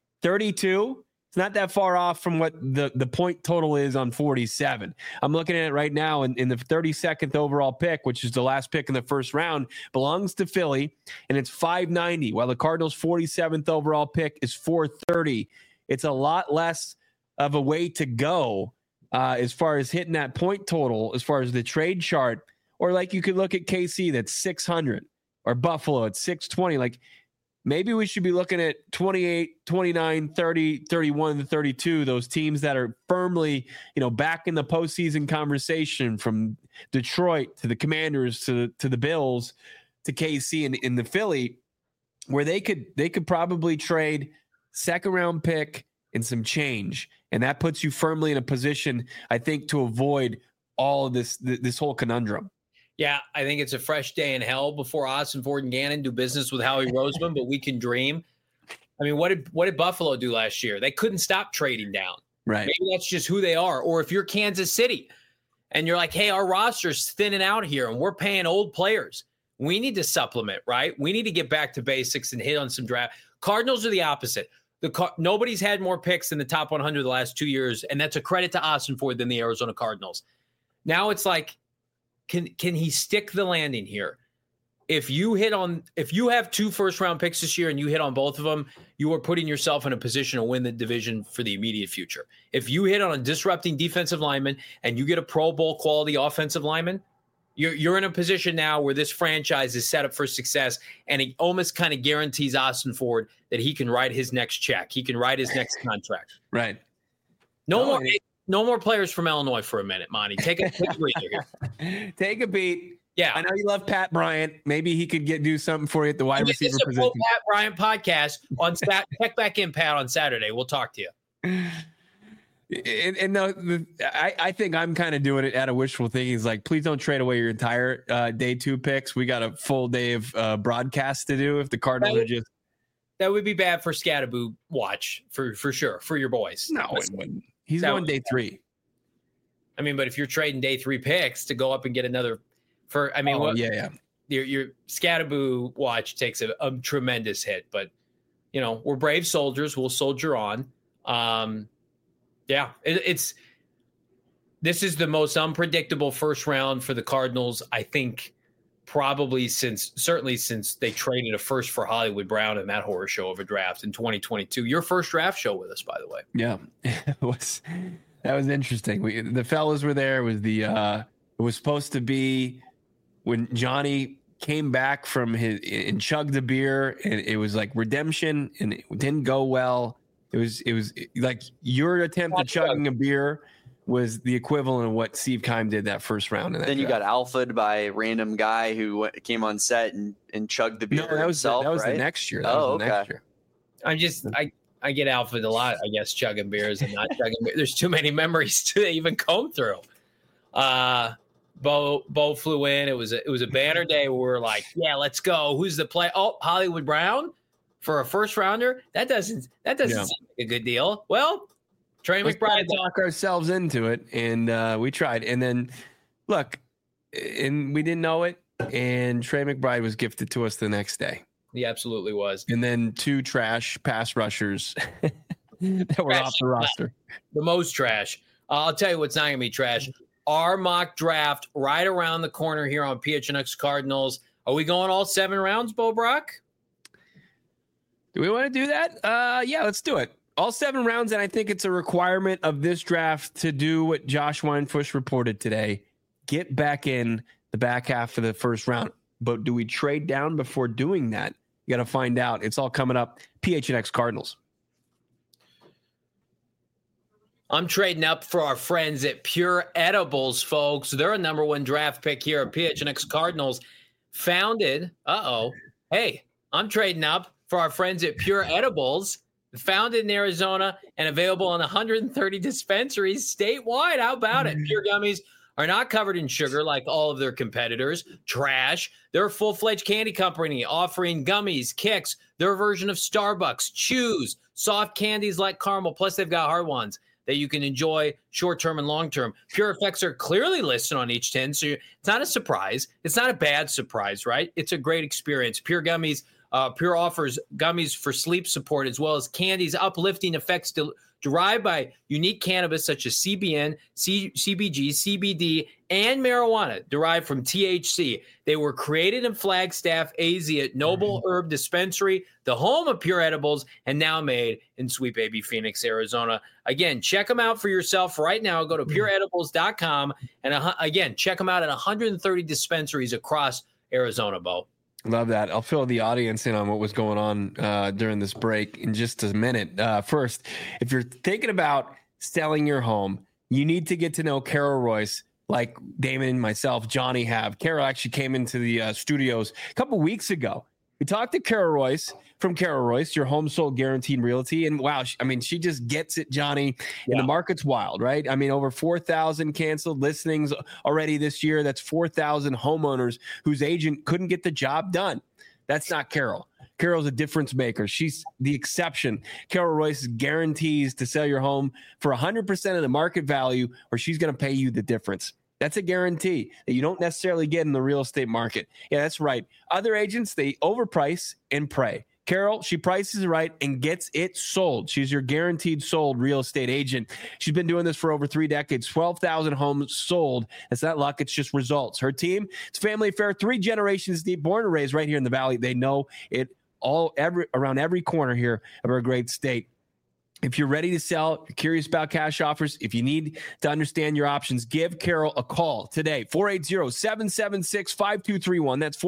A: 32, it's not that far off from what the point total is on 47. I'm looking at it right now, in the 32nd overall pick, which is the last pick in the first round, belongs to Philly, and it's 590, while the Cardinals' 47th overall pick is 430. It's a lot less of a way to go as far as hitting that point total, as far as the trade chart. Or like you could look at KC, that's 600, or Buffalo at 620. Like, maybe we should be looking at 28, 29, 30, 31, 32, those teams that are firmly, back in the postseason conversation, from Detroit to the Commanders to the Bills to KC and in the Philly, where they could probably trade second round pick and some change. And that puts you firmly in a position, I think, to avoid all of this whole conundrum.
B: Yeah, I think it's a fresh day in hell before Ossenfort and Gannon do business with Howie Roseman, but we can dream. I mean, what did Buffalo do last year? They couldn't stop trading down.
A: Right.
B: Maybe that's just who they are. Or if you're Kansas City and you're like, hey, our roster's thinning out here and we're paying old players, we need to supplement, right? We need to get back to basics and hit on some draft. Cardinals are the opposite. Nobody's had more picks in the top 100 the last 2 years, and that's a credit to Ossenfort than the Arizona Cardinals. Now it's like, Can he stick the landing here? If you have 2 first-round picks this year and you hit on both of them, you are putting yourself in a position to win the division for the immediate future. If you hit on a disrupting defensive lineman and you get a Pro Bowl quality offensive lineman, you're in a position now where this franchise is set up for success, and it almost kind of guarantees Ossenfort that he can write his next check. He can write his next contract.
A: Right.
B: No more players from Illinois for a minute, Monty. Take a breather here.
A: Take a beat.
B: Yeah.
A: I know you love Pat Bryant. Maybe he could do something for you at the wide receiver position.
B: Pat Bryant podcast on check back in, Pat, on Saturday. We'll talk to you.
A: I think I'm kind of doing it out of wishful thinking. It's like, please don't trade away your entire day 2 picks. We got a full day of broadcast to do if the Cardinals are just.
B: That would be bad for Scatterboo watch for sure, for your boys.
A: No, it wouldn't. He's going day 3.
B: I mean, but if you're trading day 3 picks to go up and get another your Scatterboo watch takes a tremendous hit, but we're brave soldiers. We'll soldier on. This is the most unpredictable first round for the Cardinals, I think, probably since they traded a first for Hollywood Brown and Matt Horrorshow of a draft in 2022. Your first draft show with us, by the way.
A: Yeah, that was interesting. The fellas were there. It was supposed to be when Johnny came back from and chugged a beer, and it was like redemption, and it didn't go well. It was like your attempt at chugging a beer was the equivalent of what Steve Keim did that first round.
C: Then you got alphaed by a random guy who came on set and chugged the beer himself.
A: That was
C: right?
A: the next year.
C: Next year.
B: I get alphaed a lot, I guess, chugging beers and not chugging beers. There's too many memories to even comb through. Bo flew in. It was a banner day where we're like, yeah, let's go. Who's the play? Oh, Hollywood Brown for a first rounder. That doesn't seem like a good deal. Well, Trey McBride
A: talk ourselves into it, and we tried. And then, look, and we didn't know it, and Trey McBride was gifted to us the next day.
B: He absolutely was.
A: And then 2 trash pass rushers that were off the roster.
B: The most trash. I'll tell you what's not going to be trash. Our mock draft right around the corner here on PHNX Cardinals. Are we going all 7 rounds, Bo Brock?
A: Do we want to do that? Yeah, let's do it. All 7 rounds, and I think it's a requirement of this draft to do what Josh Weinfush reported today. Get back in the back half of the first round. But do we trade down before doing that? You got to find out. It's all coming up. PHNX Cardinals.
B: I'm trading up for our friends at Pure Edibles, folks. They're a number 1 draft pick here at PHNX Cardinals. Founded, hey, I'm trading up for our friends at Pure Edibles. Founded in Arizona and available in 130 dispensaries statewide. How about it? Pure gummies are not covered in sugar like all of their competitors. Trash. They're a full-fledged candy company offering gummies, kicks, their version of Starbucks, chews, soft candies like caramel, plus they've got hard ones that you can enjoy short-term and long-term. Pure effects are clearly listed on each tin, so it's not a surprise. It's not a bad surprise, right? It's a great experience. Pure gummies, Pure offers gummies for sleep support as well as candies, uplifting effects derived by unique cannabis such as CBN, CBG, CBD, and marijuana derived from THC. They were created in Flagstaff, AZ at Noble Herb Dispensary, the home of Pure Edibles, and now made in Sweet Baby Phoenix, Arizona. Again, check them out for yourself right now. Go to pureedibles.com and again, check them out at 130 dispensaries across Arizona, Bo.
A: Love that. I'll fill the audience in on what was going on during this break in just a minute. First, if you're thinking about selling your home, you need to get to know Carol Royce like Damon, myself, Johnny have. Carol actually came into the studios a couple weeks ago. We talked to Carol Royce from Carol Royce, your home sold guaranteed realty. And wow, she just gets it, Johnny. And the market's wild, right? I mean, over 4,000 canceled listings already this year. That's 4,000 homeowners whose agent couldn't get the job done. That's not Carol. Carol's a difference maker. She's the exception. Carol Royce guarantees to sell your home for 100% of the market value, or she's going to pay you the difference. That's a guarantee that you don't necessarily get in the real estate market. Yeah, that's right. Other agents, they overprice and pray. Carol, she prices right and gets it sold. She's your guaranteed sold real estate agent. She's been doing this for over 3 decades, 12,000 homes sold. It's not luck, it's just results. Her team, it's family affair, 3 generations deep, born and raised right here in the Valley. They know it around every corner here of our great state. If you're ready to sell, if you're curious about cash offers, if you need to understand your options, give Carol a call today, 480-776-5231. That's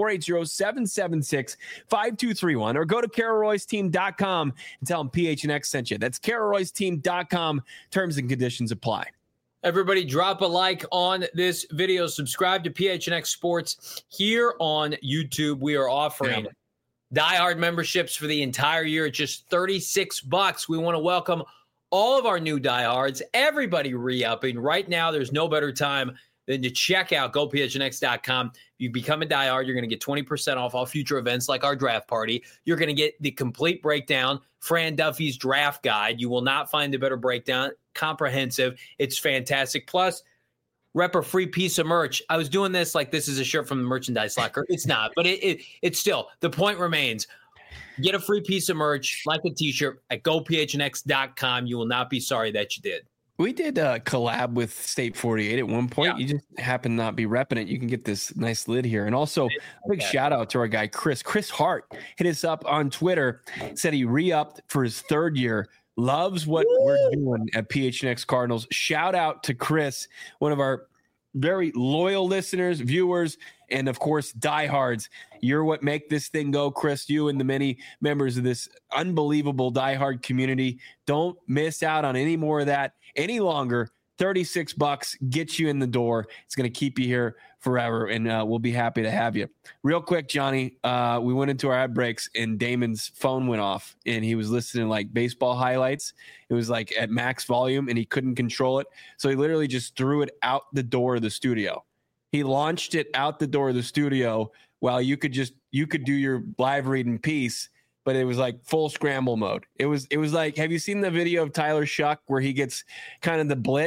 A: 480-776-5231. Or go to carolroyceteam.com and tell them PHNX sent you. That's carolroyceteam.com. Terms and conditions apply.
B: Everybody drop a like on this video. Subscribe to PHNX Sports here on YouTube. We are offering diehard memberships for the entire year at just $36. We want to welcome all of our new diehards, everybody re-upping. Right now, there's no better time than to check out gophnx.com. If you become a diehard, you're going to get 20% off all future events like our draft party. You're going to get the complete breakdown, Fran Duffy's draft guide. You will not find a better breakdown, comprehensive. It's fantastic. Plus, rep a free piece of merch. I was doing this like this is a shirt from the merchandise locker. It's not, but it's still, the point remains. Get a free piece of merch like a t-shirt at gophnx.com. You will not be sorry that you did.
A: We did a collab with State 48 at one point. You just happen to not be repping it. You can get this nice lid here. And also a big shout out to our guy, Chris Hart, hit us up on Twitter, said he re-upped for his 3rd year. Loves what we're doing at PHNX Cardinals. Shout out to Chris, one of our very loyal listeners, viewers, and of course, diehards. You're what make this thing go, Chris. You and the many members of this unbelievable diehard community. Don't miss out on any more of that any longer. $36 gets you in the door. It's going to keep you here forever, and we'll be happy to have you. Real quick, Johnny, we went into our ad breaks, and Damon's phone went off, and he was listening like baseball highlights. It was like at max volume, and he couldn't control it, so he literally just threw it out the door of the studio. He launched it out the door of the studio while you could do your live read in peace. But it was like full scramble mode. It was like, have you seen the video of Tyler Shuck where he gets kind of the blitz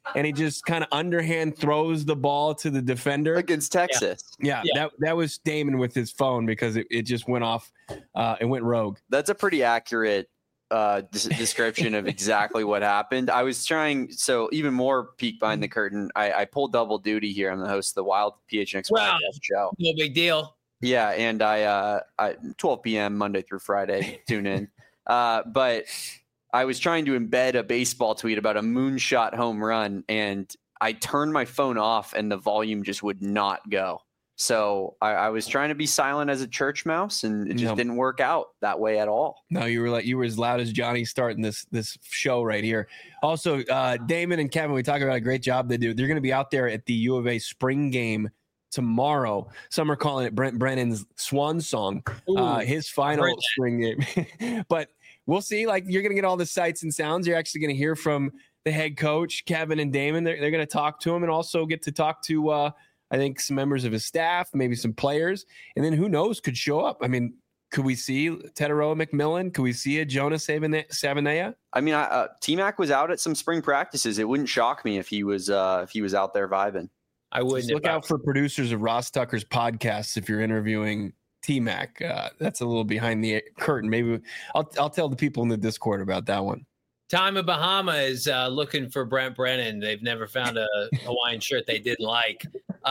A: and he just kind of underhand throws the ball to the defender
C: against Texas.
A: Yeah. That was Damon with his phone because it just went off. It went rogue.
C: That's a pretty accurate description of exactly what happened. I was trying, so even more peek behind the curtain. I pulled double duty here. I'm the host of the Wild PHNX podcast show.
B: No big deal.
C: Yeah, and I 12 p.m. Monday through Friday. Tune in. But I was trying to embed a baseball tweet about a moonshot home run, and I turned my phone off, and the volume just would not go. So I was trying to be silent as a church mouse, and it just didn't work out that way at all.
A: No, you were as loud as Johnny starting this show right here. Also, Damon and Kevin, we talk about a great job they do. They're going to be out there at the U of A spring game tomorrow. Some are calling it Brent Brennan's swan song, his final spring game. But we'll see. Like, you're going to get all the sights and sounds. You're actually going to hear from the head coach, Kevin and Damon. They're going to talk to him and also get to talk to I think some members of his staff, maybe some players, and then who knows could show up. I mean, could we see Teteroa McMillan? Could we see a Jonas Savanea? I mean,
C: T-Mac was out at some spring practices. It wouldn't shock me if he was out there vibing.
B: I wouldn't.
A: Look out for producers of Ross Tucker's podcasts if you're interviewing T-Mac. That's a little behind the curtain. Maybe I'll tell the people in the Discord about that one.
B: Time of Bahama is looking for Brent Brennan. They've never found a Hawaiian shirt they didn't like.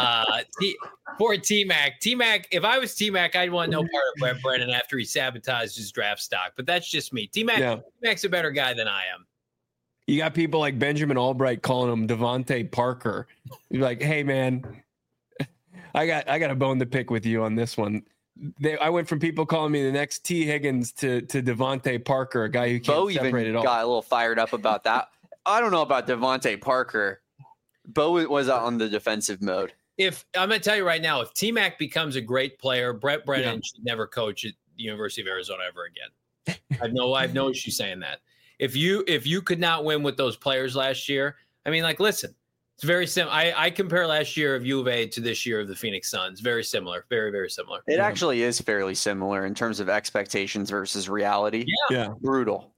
B: Poor T-Mac. T-Mac, if I was T-Mac, I'd want no part of Brent Brennan after he sabotaged his draft stock. But that's just me. T-Mac's a better guy than I am.
A: You got people like Benjamin Albright calling him Devontae Parker. You're like, hey, man, I got a bone to pick with you on this one. I went from people calling me the next T. Higgins to Devontae Parker, a guy who can't separate it all.
C: Got a little fired up about that. I don't know about Devontae Parker. Bo was on the defensive mode.
B: If I'm going to tell you right now, if T-Mac becomes a great player, Brent Brennan should never coach at the University of Arizona ever again. I have no issue saying that. If you could not win with those players last year, I mean, like, listen, it's very similar. I compare last year of U of A to this year of the Phoenix Suns. Very similar. Very, very similar.
C: It actually is fairly similar in terms of expectations versus reality.
A: Yeah.
C: Brutal.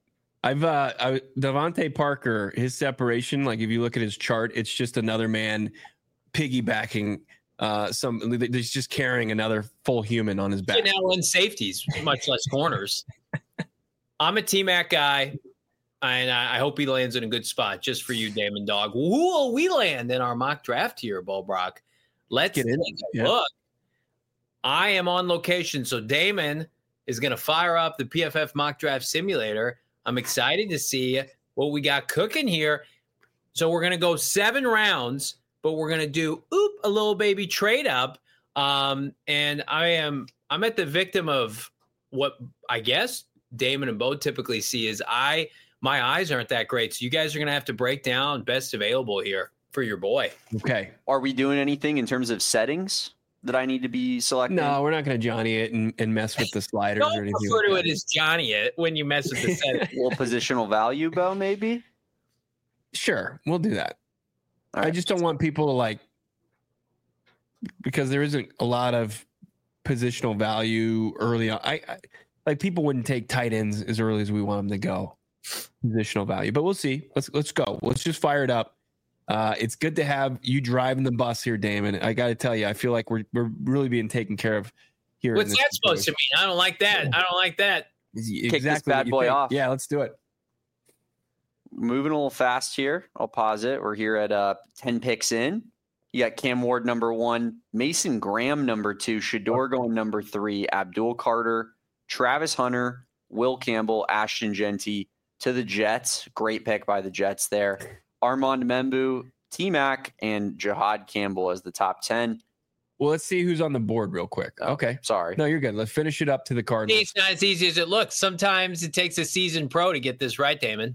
A: Devontae Parker, his separation, like if you look at his chart, it's just another man piggybacking he's just carrying another full human on his back.
B: He now runs safeties, much less corners. I'm a T-Mac guy. And I hope he lands in a good spot just for you, Damon Dog. Who will we land in our mock draft here, Bo Brock? Let's get in. Look, I am on location, so Damon is going to fire up the PFF mock draft simulator. I'm excited to see what we got cooking here. So we're going to go 7 rounds, but we're going to do a little baby trade up. And I'm at the victim of what I guess Damon and Bo typically see is my eyes aren't that great. So you guys are going to have to break down best available here for your boy.
A: Okay.
C: Are we doing anything in terms of settings that I need to be selecting?
A: No, we're not going to Johnny it and mess with the sliders or anything.
B: Don't refer to it as Johnny it when you mess with the settings.
C: Well, positional value, Bo, maybe?
A: Sure. We'll do that.
C: All right.
A: I just don't want people to because there isn't a lot of positional value early on. I like people wouldn't take tight ends as early as we want them to go. Positional value, but we'll see. Let's go. Let's just fire it up. It's good to have you driving the bus here, Damon. I got to tell you, I feel like we're really being taken care of here.
B: What's that supposed to mean? I don't like that. I don't like that.
A: Exactly.
C: Kick this bad boy off.
A: Yeah, let's do it.
C: Moving a little fast here. I'll pause it. We're here at 10 picks in. You got Cam Ward number 1, Mason Graham number 2, Shedeur going number 3, Abdul Carter, Travis Hunter, Will Campbell, Ashton Genty to the Jets. Great pick by the Jets there. Armand Membu, T-Mac, and Jihad Campbell as the top 10.
A: Well, let's see who's on the board real quick. Okay.
C: Sorry.
A: No, you're good. Let's finish it up to the Cardinals.
B: It's not as easy as it looks. Sometimes it takes a seasoned pro to get this right, Damon.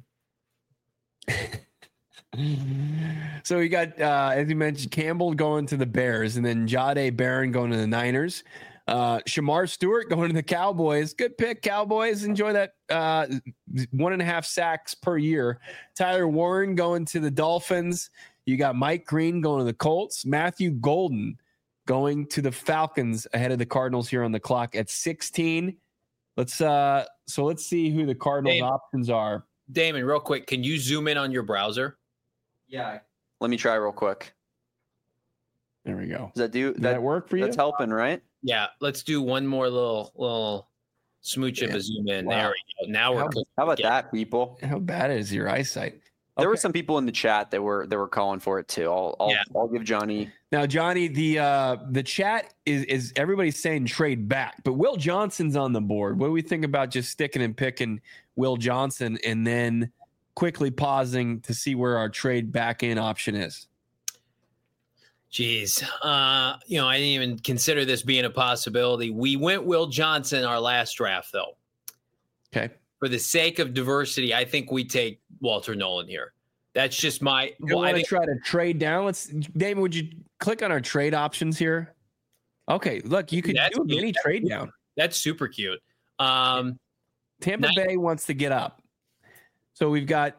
A: So we got, as you mentioned, Campbell going to the Bears, and then Jahdae Barron going to the Niners. Shamar Stewart going to the Cowboys. Good pick, Cowboys. Enjoy that 1.5 sacks per year. Tyler Warren going to the Dolphins. You got Mike Green going to the Colts. Matthew Golden going to the Falcons ahead of the Cardinals here on the clock at 16. Let's see who the Cardinals options are.
B: Damon, real quick, can you zoom in on your browser?
C: Yeah. Let me try real quick.
A: There we go.
C: Does
A: Does that work for you?
C: That's helping, right?
B: Yeah, let's do one more little smooch of a zoom in.
A: Wow.
B: There we go. Now we're cooking.
C: How about
B: again.
C: that, people?
A: How bad is your eyesight?
C: There were
A: Okay.
C: some people in the chat that were calling for it too. I'll give Johnny.
A: Now, Johnny, the chat is everybody's saying trade back, but Will Johnson's on the board. What do we think about just sticking and picking Will Johnson and then quickly pausing to see where our trade back in option is?
B: Jeez. I didn't even consider this being a possibility. We went Will Johnson our last draft, though.
A: Okay.
B: For the sake of diversity, I think we take Walter Nolan here. That's just my.
A: You want to try to trade down? Damon, would you click on our trade options here? Okay, look, you could do a mini trade down.
B: That's super cute.
A: Tampa Bay wants to get up. So we've got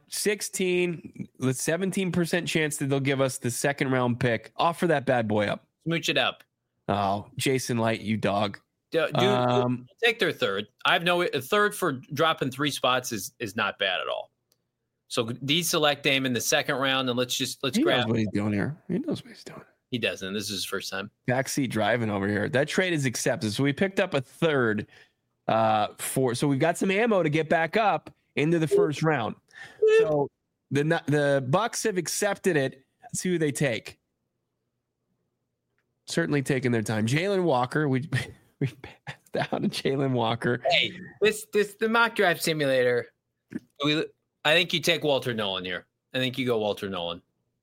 A: 17% chance that they'll give us the second round pick. Offer that bad boy up.
B: Smooch it up.
A: Oh, Jason Light, you dog.
B: Dude, take their third. A third for dropping 3 spots is not bad at all. So deselect him in the second round, and let's
A: He
B: grab.
A: knows what he's doing here. He knows what he's doing.
B: He doesn't. This is his first time.
A: Backseat driving over here. That trade is accepted. So we picked up a third so we've got some ammo to get back up into the first round. So the Bucks have accepted it. Let's see who they take. Certainly taking their time. Jalen Walker. We passed down to Jalen Walker.
B: Hey, the mock draft simulator. I think you take Walter Nolan here. I think you go Walter Nolan.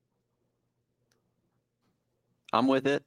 C: I'm with it.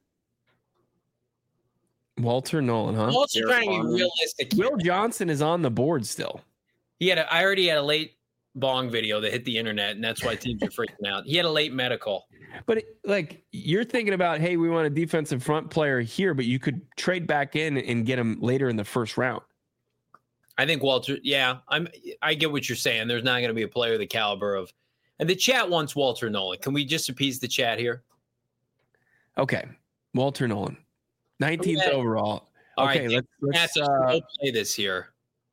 A: Walter Nolan, huh?
B: I'm also trying to be realistic here.
A: Will Johnson is on the board still.
B: I already had a late bong video that hit the internet, and that's why teams are freaking out. He had a late medical.
A: But you're thinking about, hey, we want a defensive front player here, but you could trade back in and get him later in the first round.
B: I think Walter. Yeah, I get what you're saying. There's not going to be a player the caliber of, and the chat wants Walter Nolan. Can we just appease the chat here?
A: Okay, Walter Nolan, 19th overall. Okay,
B: right,
A: let's
B: play this here.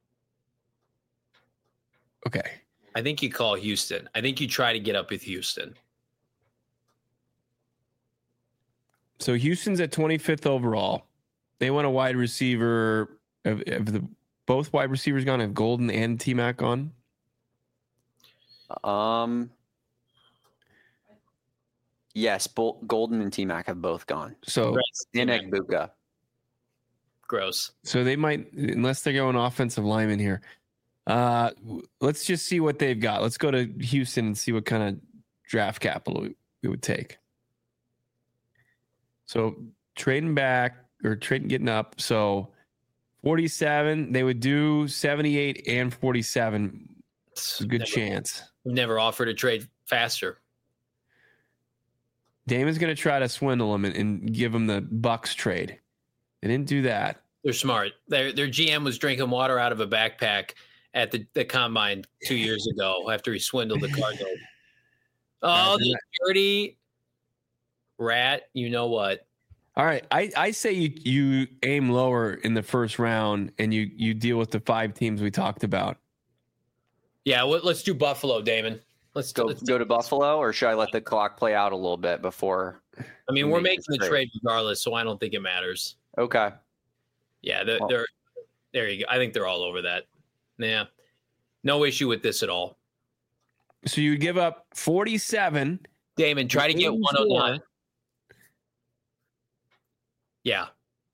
A: Okay.
B: I think you call Houston. I think you try to get up with Houston.
A: So Houston's at 25th overall. They want a wide receiver. Both wide receivers gone? Have Golden and T-Mac gone?
C: Yes, Golden and T-Mac have both gone.
A: So
C: and Egbuka.
B: Gross.
A: So they might, unless they're going offensive lineman here. Let's just see what they've got. Let's go to Houston and see what kind of draft capital we would take. So trading back or getting up. So 47, they would do 78 and 47. It's a good chance.
B: We've never offered a trade faster.
A: Damon's going to try to swindle him and give him the Bucks trade. They didn't do that.
B: They're smart. Their GM was drinking water out of a backpack at the combine 2 years ago after he swindled the Cardinals. Oh, the dirty rat. You know what?
A: All right. I say you aim lower in the first round and you deal with the 5 teams we talked about.
B: Yeah, let's do Buffalo, Damon. Let's
C: go to Buffalo, or should I let the clock play out a little bit before?
B: I mean, we're making the trade regardless, so I don't think it matters.
C: Okay.
B: Yeah, they're there you go. I think they're all over that. Yeah. No issue with this at all.
A: So you give up 47.
B: Damon, try to get 109. Yeah.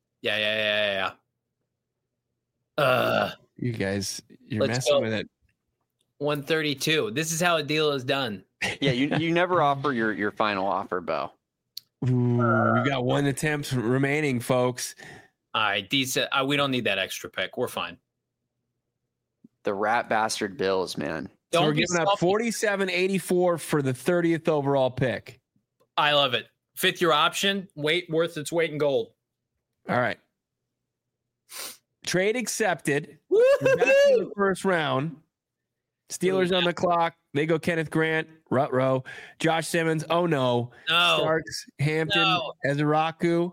A: You guys, you're messing with it.
B: 132. This is how a deal is done.
C: Yeah, you never offer your final offer, Bo.
A: Ooh, we've got 1 attempt remaining, folks.
B: All right, decent. We don't need that extra pick. We're fine.
C: The rat bastard Bills, man.
A: So we're giving up 47.84 for the 30th overall pick.
B: I love it. 5th year option, worth its weight in gold.
A: All right. Trade accepted. We're back in the first round. Steelers on the clock. They go Kenneth Grant, Rutrow, Josh Simmons. Oh no. Starks, Hampton, Ezeraku.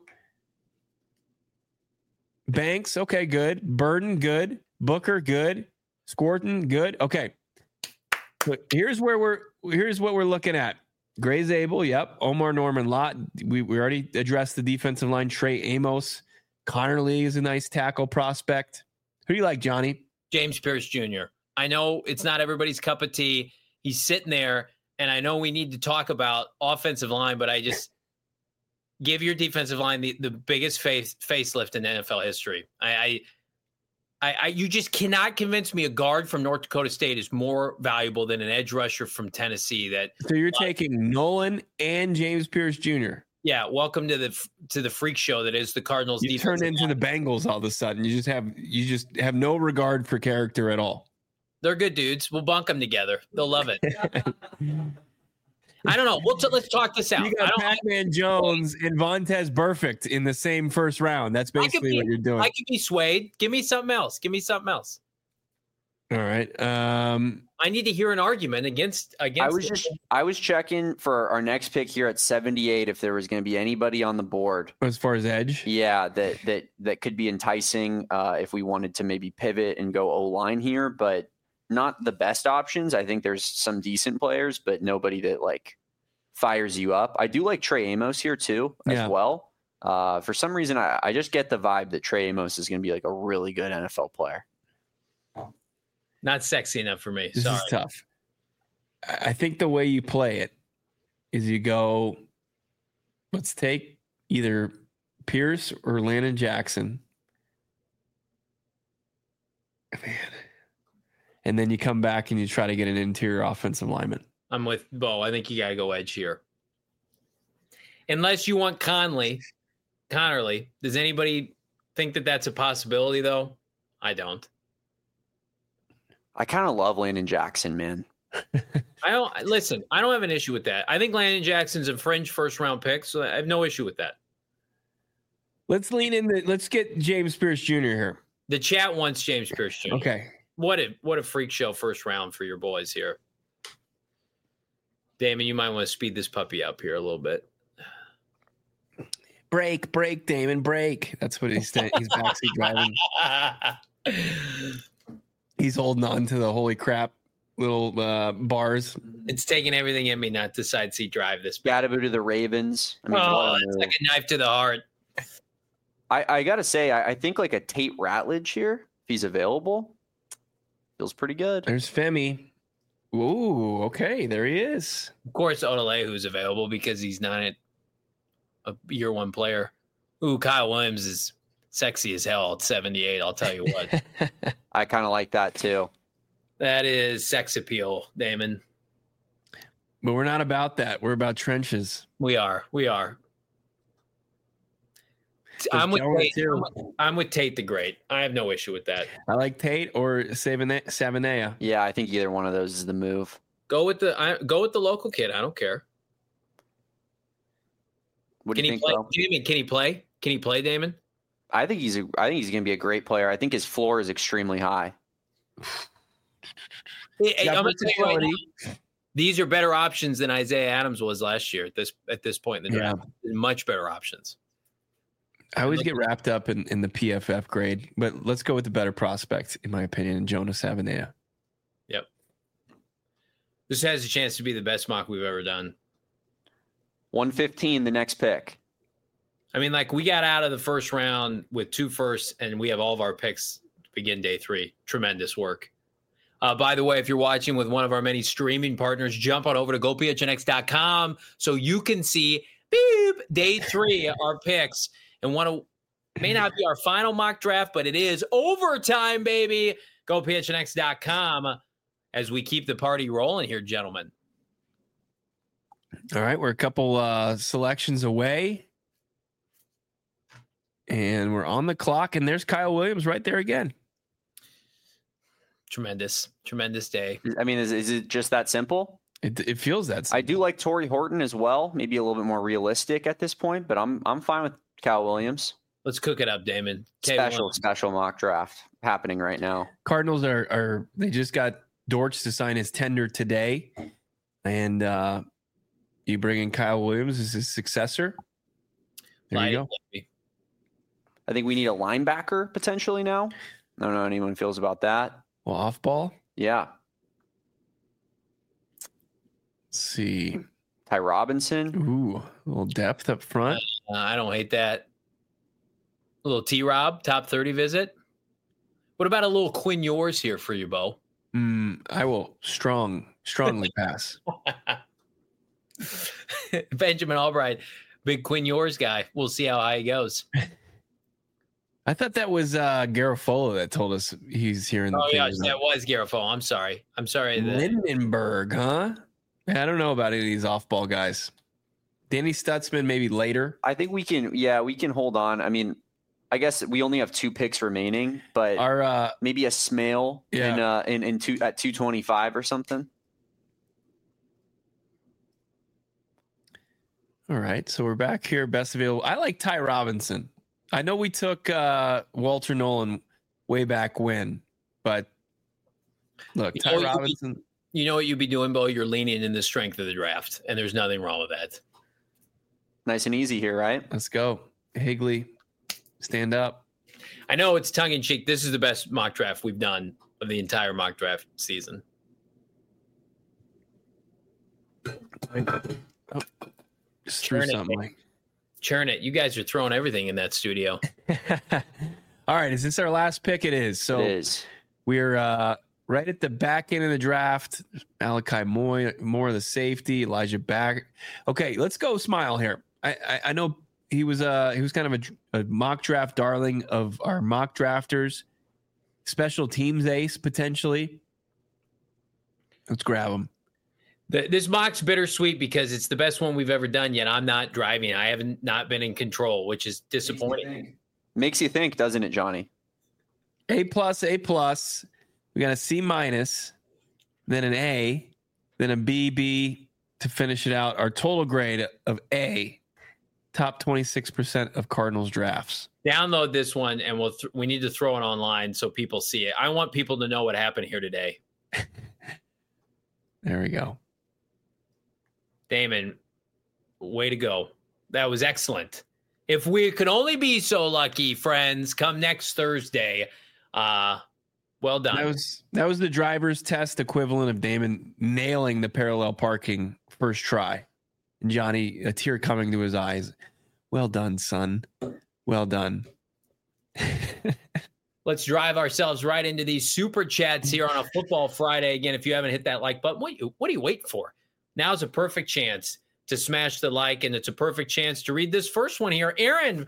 A: Banks, okay, good. Burden, good. Booker, good. Scorton, good. Okay. But here's what we're looking at. Gray Zabel, yep. Omar Norman Lott. We already addressed the defensive line. Trey Amos. Connerly is a nice tackle prospect. Who do you like, Johnny?
B: James Pierce Jr. I know it's not everybody's cup of tea. He's sitting there, and I know we need to talk about offensive line, but I just give your defensive line the biggest facelift in NFL history. You just cannot convince me a guard from North Dakota State is more valuable than an edge rusher from Tennessee.
A: So you're taking Nolan and James Pierce Jr.
B: Yeah, welcome to the freak show that is the Cardinals.
A: You turned into the Bengals all of a sudden. You just have no regard for character at all.
B: They're good dudes. We'll bunk them together. They'll love it. I don't know. Let's talk this out.
A: You got Pac-Man Jones and Vontaze Burfict in the same first round. That's basically what you're doing.
B: I could be swayed. Give me something else.
A: All right.
B: I need to hear an argument against.
C: I was checking for our next pick here at 78 if there was going to be anybody on the board
A: as far as edge.
C: Yeah, that could be enticing if we wanted to maybe pivot and go O-line here, but not the best options. I think there's some decent players, but nobody that like fires you up. I do like Trey Amos here too, as well. For some reason, I just get the vibe that Trey Amos is going to be like a really good NFL player.
B: Not sexy enough for me.
A: This is tough. I think the way you play it is you go, let's take either Pierce or Landon Jackson. Man. And then you come back and you try to get an interior offensive lineman.
B: I'm with Bo. I think you got to go edge here. Unless you want Connerly. Does anybody think that that's a possibility, though? I don't.
C: I kind of love Landon Jackson, man.
B: I don't have an issue with that. I think Landon Jackson's a fringe first round pick, so I have no issue with that.
A: Let's lean in. Let's get James Pierce Jr. here.
B: The chat wants James Pierce Jr.
A: Okay.
B: What a freak show first round for your boys here. Damon, you might want to speed this puppy up here a little bit.
A: Break, Damon, break. That's what he's saying. He's backseat driving. He's holding on to the holy crap little bars.
B: It's taking everything in me not to side seat drive this.
C: Gotta go to the Ravens.
B: I mean, it's like a knife to the heart.
C: I gotta say, I think like a Tate Ratledge here, if he's available, feels pretty good.
A: There's Femi. Ooh, okay, there he is.
B: Of course, Odele, who's available because he's not a year one player. Ooh, Kyle Williams is sexy as hell at 78. I'll tell you what.
C: I kind of like that too.
B: That is sex appeal, Damon.
A: But we're not about that. We're about trenches.
B: We are. I'm with Tate the Great. I have no issue with that.
A: I like Tate or Savanea.
C: Yeah, I think either one of those is the move.
B: Go with the local kid. I don't care.
C: What do you think, Bo?
B: Damon, can he play? Can he play, Damon?
C: I think he's going to be a great player. I think his floor is extremely high.
B: Hey, I'm going to tell you right now, these are better options than Isaiah Adams was last year at this point in the draft. Much better options.
A: I always get wrapped up in the PFF grade, but let's go with the better prospect, in my opinion, Jonas Savanea.
B: Yep. This has a chance to be the best mock we've ever done.
C: 115, the next pick.
B: I mean, like, we got out of the first round with 2 firsts, and we have all of our picks to begin day 3. Tremendous work. By the way, if you're watching with one of our many streaming partners, jump on over to gophnx.com so you can see day 3, our picks. And may not be our final mock draft, but it is overtime, baby. GoPHNX.com as we keep the party rolling here, gentlemen.
A: All right, we're a couple selections away. And we're on the clock, and there's Kyle Williams right there again.
B: Tremendous day.
C: I mean, is it just that simple?
A: It feels that simple.
C: I do like Torrey Horton as well. Maybe a little bit more realistic at this point, but I'm fine with Kyle Williams.
B: Let's cook it up, Damon.
C: Special mock draft happening right now.
A: Cardinals are they just got Dortch to sign his tender today, and you bring in Kyle Williams as his successor. There you go.
C: I think we need a linebacker potentially now. I don't know how anyone feels about that.
A: Well, off ball.
C: Yeah.
A: Let's see.
C: Ty Robinson.
A: Ooh, a little depth up front.
B: I don't hate that. A little T-Rob, top 30 visit. What about a little Quinn Ewers here for you, Bo?
A: I will strongly pass.
B: Benjamin Albright, big Quinn Ewers guy. We'll see how high he goes.
A: I thought that was Garofolo that told us he's here in the
B: yeah, that was Garofolo. I'm sorry.
A: Lindenberg, huh? I don't know about any of these off-ball guys. Danny Stutzman maybe later.
C: I think we can hold on. I mean, I guess we only have 2 picks remaining, but maybe a Smale in at 225 or something.
A: All right, so we're back here. Best available. I like Ty Robinson. I know we took Walter Nolan way back when, but look, Ty Robinson.
B: You know what you'd be doing, Bo? You're leaning in the strength of the draft, and there's nothing wrong with that.
C: Nice and easy here, right?
A: Let's go. Higley, stand up.
B: I know it's tongue-in-cheek. This is the best mock draft we've done of the entire mock draft season.
A: Oh, just threw something like.
B: Churn it. You guys are throwing everything in that studio.
A: All right. Is this our last pick? It is. So
C: it is.
A: We're right at the back end of the draft. Malachi Moore, the safety. Elijah Back. Okay, let's go Smile here. I know he was kind of a mock draft darling of our mock drafters. Special teams ace, potentially. Let's grab him.
B: This mock's bittersweet because it's the best one we've ever done, yet I'm not driving. I haven't not been in control, which is disappointing.
C: Makes you think, doesn't it, Johnny?
A: A+. We got a C-, then an A, then a B to finish it out. Our total grade of A, top 26% of Cardinals drafts.
B: Download this one, and we need to throw it online so people see it. I want people to know what happened here today.
A: There we go.
B: Damon, way to go. That was excellent. If we could only be so lucky, friends, come next Thursday. Well done.
A: That was the driver's test equivalent of Damon nailing the parallel parking first try. And Johnny, a tear coming to his eyes. Well done, son. Well done.
B: Let's drive ourselves right into these super chats here on a Football Friday. Again, if you haven't hit that like button, what are you waiting for? Now's a perfect chance to smash the like, and it's a perfect chance to read this first one here. Aaron,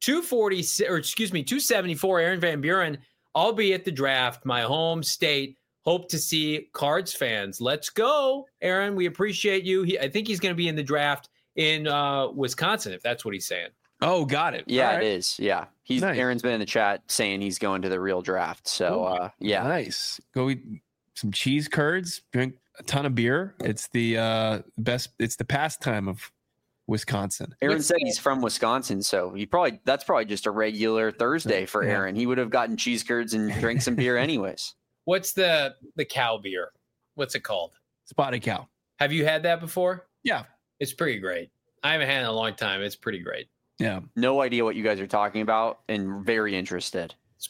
B: 274, Aaron Van Buren. I'll be at the draft, my home state. Hope to see Cards fans. Let's go, Aaron. We appreciate you. I think he's going to be in the draft in Wisconsin, if that's what he's saying.
A: Oh, got it.
C: Yeah,
A: right.
C: It is. Yeah.
A: Nice.
C: Aaron's been in the chat saying he's going to the real draft. So, yeah.
A: Nice. Go eat some cheese curds, drink a ton of beer. It's the best. It's the pastime of Wisconsin.
C: Aaron said he's from Wisconsin, so that's probably just a regular Thursday for Aaron. He would have gotten cheese curds and drank some beer anyways.
B: What's the cow beer? What's it called?
A: Spotted Cow.
B: Have you had that before?
A: Yeah.
B: It's pretty great. I haven't had it in a long time. It's pretty great.
A: Yeah.
C: No idea what you guys are talking about and very interested.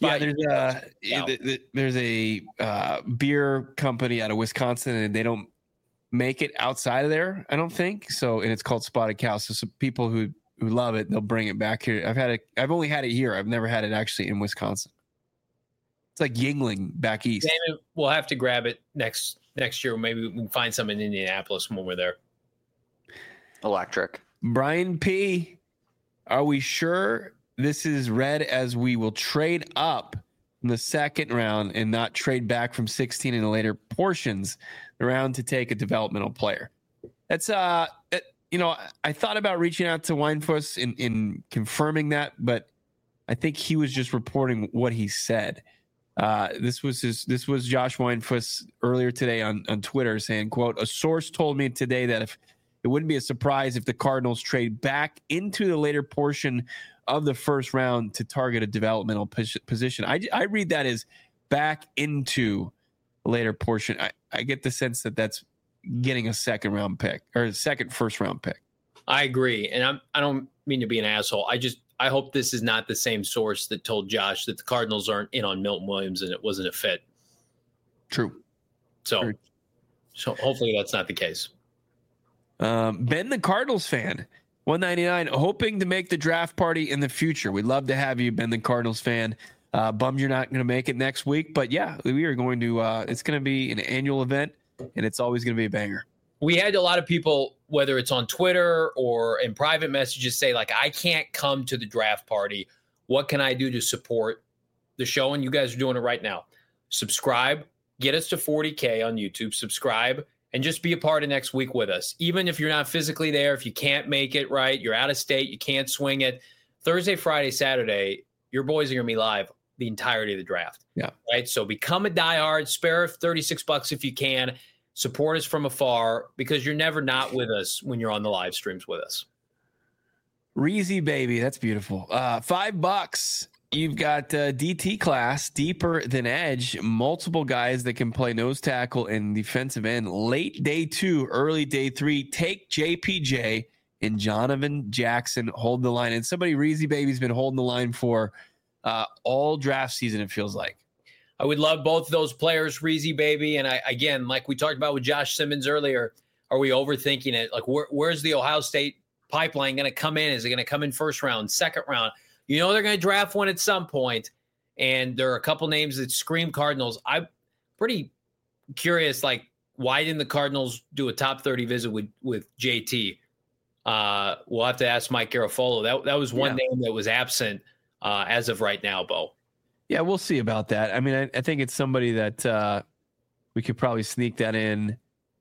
A: There's a beer company out of Wisconsin, and they don't make it outside of there, I don't think. So, and it's called Spotted Cow. So some people who love it, they'll bring it back here. I've only had it here. I've never had it actually in Wisconsin. It's like Yingling back east.
B: David, we'll have to grab it next year. Maybe we can find some in Indianapolis when we're there.
C: Electric.
A: Brian P. Are we sure this is read as we will trade up in the second round and not trade back from 16 in the later portions around to take a developmental player? That's I thought about reaching out to Weinfuss in confirming that, but I think he was just reporting what he said. This was Josh Weinfuss earlier today on Twitter saying, quote, a source told me today that if it wouldn't be a surprise if the Cardinals trade back into the later portion of the first round to target a developmental position. I read that as back into a later portion. I get the sense that that's getting a second round pick or a second first round pick.
B: I agree. And I don't mean to be an asshole. I hope this is not the same source that told Josh that the Cardinals aren't in on Milton Williams and it wasn't a fit.
A: True.
B: So hopefully that's not the case.
A: Ben the Cardinals fan, 199, hoping to make the draft party in the future. We'd love to have you, Ben the Cardinals fan. Bummed you're not going to make it next week, but yeah, we are going to. It's going to be an annual event, and it's always going to be a banger.
B: We had a lot of people, whether it's on Twitter or in private messages, say, like, I can't come to the draft party. What can I do to support the show? And you guys are doing it right now. Subscribe, get us to 40K on YouTube, subscribe, and just be a part of next week with us. Even if you're not physically there, if you can't make it, right, you're out of state, you can't swing it. Thursday, Friday, Saturday, your boys are going to be live the entirety of the draft.
A: Yeah.
B: Right. So become a diehard, spare $36 if you can. Support us from afar, because you're never not with us when you're on the live streams with us.
A: Reezy baby, that's beautiful. $5. You've got DT class, deeper than edge, multiple guys that can play nose tackle and defensive end. Late day 2, early day 3. Take JPJ and Jonathan Jackson. Hold the line. And somebody, Reezy baby's been holding the line for all draft season, it feels like.
B: I would love both of those players, Reezy baby. And again, like we talked about with Josh Simmons earlier, are we overthinking it? Like, where's the Ohio State pipeline going to come in? Is it going to come in first round, second round? You know, they're going to draft one at some point, and there are a couple names that scream Cardinals. I'm pretty curious, like, why didn't the Cardinals do a top 30 visit with JT? We'll have to ask Mike Garafolo. That was one name that was absent as of right now, Bo.
A: Yeah, we'll see about that. I mean, I think it's somebody that we could probably sneak that in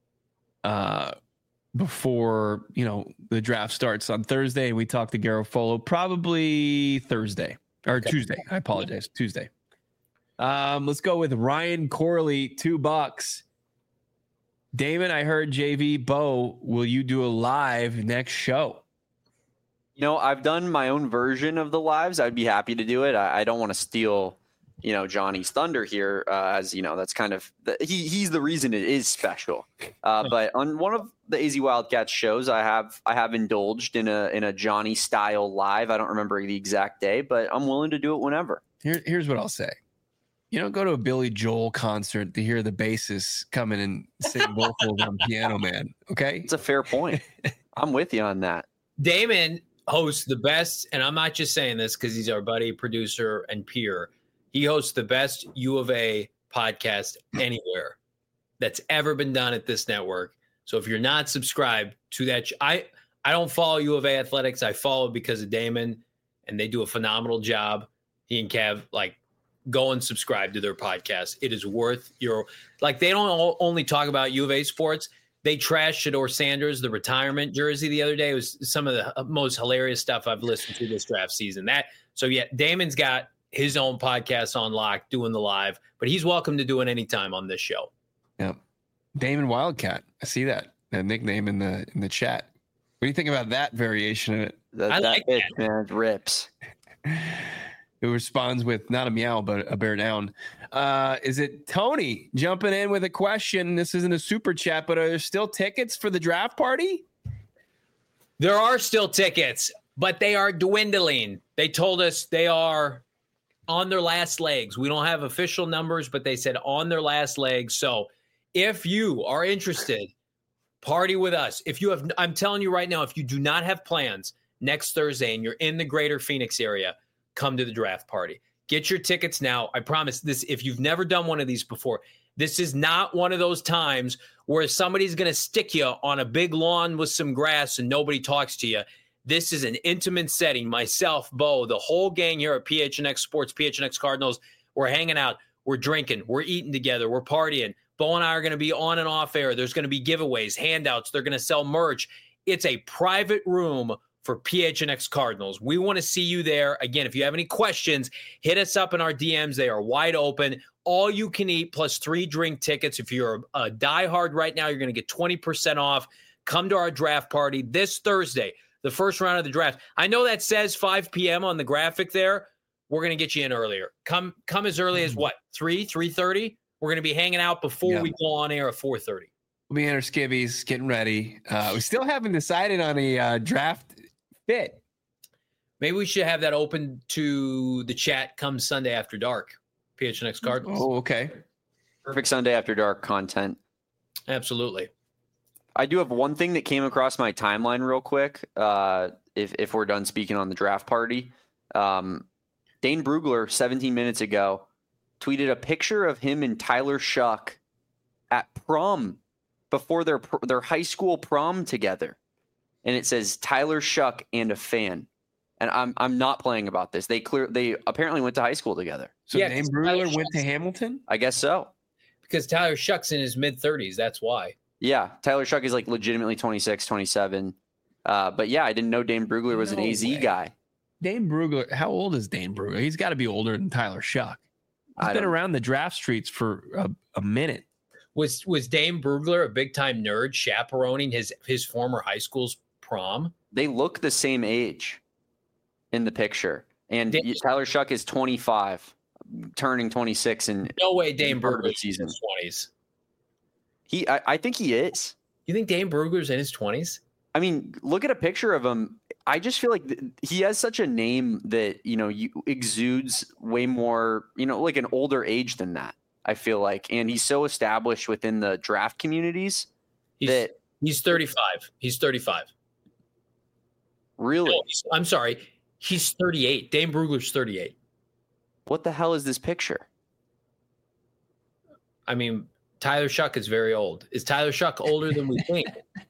A: before, the draft starts on Thursday. And we talk to Garofolo probably Thursday or Tuesday. I apologize. Tuesday. Let's go with Ryan Corley, $2. Damon, I heard JV Bo, will you do a live next show?
C: I've done my own version of the lives. I'd be happy to do it. I don't want to steal, Johnny's thunder here, as that's kind of he's the reason it is special. But on one of the AZ Wildcats shows, I have indulged in a Johnny style live. I don't remember the exact day, but I'm willing to do it whenever.
A: Here's what I'll say. Go to a Billy Joel concert to hear the bassist come in and sing vocals on Piano Man. Okay,
C: it's a fair point. I'm with you on that.
B: Damon hosts the best, and I'm not just saying this because he's our buddy, producer, and peer. He hosts the best U of A podcast anywhere that's ever been done at this network. So if you're not subscribed to that, I don't follow U of A athletics. I follow because of Damon, and they do a phenomenal job. He and Kev, go and subscribe to their podcast. It is worth they don't only talk about U of A sports. They trashed Shedeur Sanders, the retirement jersey, the other day. It was some of the most hilarious stuff I've listened to this draft season. Damon's got his own podcast on lock, doing the live, but he's welcome to do it anytime on this show.
A: Yeah, Damon Wildcat. I see that nickname in the chat. What do you think about that variation of it?
B: I like that,
C: man. It rips.
A: Who responds with not a meow, but a bear down. Is it Tony jumping in with a question? This isn't a super chat, but are there still tickets for the draft party?
B: There are still tickets, but they are dwindling. They told us they are on their last legs. We don't have official numbers, but they said on their last legs. So if you are interested, party with us. I'm telling you right now, if you do not have plans next Thursday and you're in the greater Phoenix area, come to the draft party. Get your tickets now. I promise this, if you've never done one of these before, this is not one of those times where somebody's going to stick you on a big lawn with some grass and nobody talks to you. This is an intimate setting. Myself, Bo, the whole gang here at PHNX Sports, PHNX Cardinals, we're hanging out. We're drinking. We're eating together. We're partying. Bo and I are going to be on and off air. There's going to be giveaways, handouts. They're going to sell merch. It's a private room for PHNX Cardinals. We want to see you there. Again, if you have any questions, hit us up in our DMs. They are wide open. All you can eat plus 3 drink tickets. If you're a diehard right now, you're going to get 20% off. Come to our draft party this Thursday, the first round of the draft. I know that says 5 p.m. on the graphic there. We're going to get you in earlier. Come as early as what? 3:30? We're going to be hanging out before we go on air at 4:30.
A: We'll be in our skivvies, getting ready. We still haven't decided on a draft fit.
B: Maybe we should have that open to the chat come Sunday after dark. PHNX Cardinals.
A: Oh, okay.
C: Perfect Sunday after dark content.
B: Absolutely.
C: I do have one thing that came across my timeline real quick. If we're done speaking on the draft party, Dane Brugler 17 minutes ago tweeted a picture of him and Tyler Shuck at prom before their high school prom together, and it says Tyler Shuck and a fan. And I'm not playing about this. They apparently went to high school together.
A: So yeah, Dane Brugler went to Hamilton?
C: I guess so.
B: Because Tyler Shuck's in his mid-30s. That's why. Yeah,
C: Tyler Shuck is like legitimately 26, 27. But yeah, I didn't know Dane Brugler was an AZ guy.
A: Dane Brugler, how old is Dane Brugler? He's got to be older than Tyler Shuck. He's been around the draft streets for a minute.
B: Was Dane Brugler a big-time nerd chaperoning his former high school's prom?
C: They look the same age in the picture. And Tyler Shuck is 25, turning 26 in
B: no way Dane Brugler's in his 20s.
C: I think he is.
B: You think Dane Brugler's in his 20s?
C: I mean, look at a picture of him. I just feel like he has such a name that, exudes way more, like an older age than that, I feel like. And he's so established within the draft communities
B: he's 35. He's 35.
C: Really?
B: No, I'm sorry. He's 38. Dane Brugler's 38.
C: What the hell is this picture?
B: I mean, Tyler Shuck is very old. Is Tyler Shuck older than we think?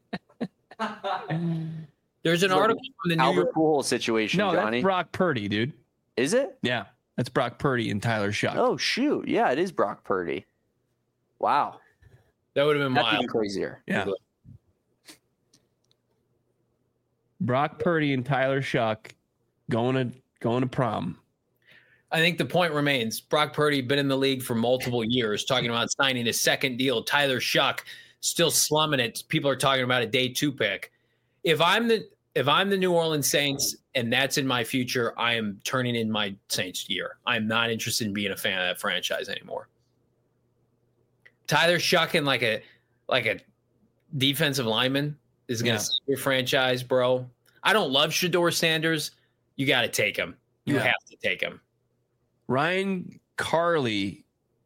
B: There's an article from the New
C: Albert
B: York
C: Pujols situation,
A: No,
C: Johnny.
A: that's Brock Purdy, dude.
C: Is it?
A: Yeah, that's Brock Purdy and Tyler Shuck.
C: Oh, shoot. Yeah, it is Brock Purdy. Wow.
B: That would have been
C: That's
B: wild.
C: even crazier.
A: Yeah. Brock Purdy and Tyler Shuck going to prom.
B: I think the point remains. Brock Purdy been in the league for multiple years, talking about signing a second deal. Tyler Shuck still slumming it. People are talking about a day 2 pick. If I'm the New Orleans Saints and that's in my future, I am turning in my Saints year. I'm not interested in being a fan of that franchise anymore. Tyler Shuck and like a defensive lineman is going to save your franchise, bro. I don't love Shedeur Sanders. You got to take him. You have to take him.
A: Ryan Carley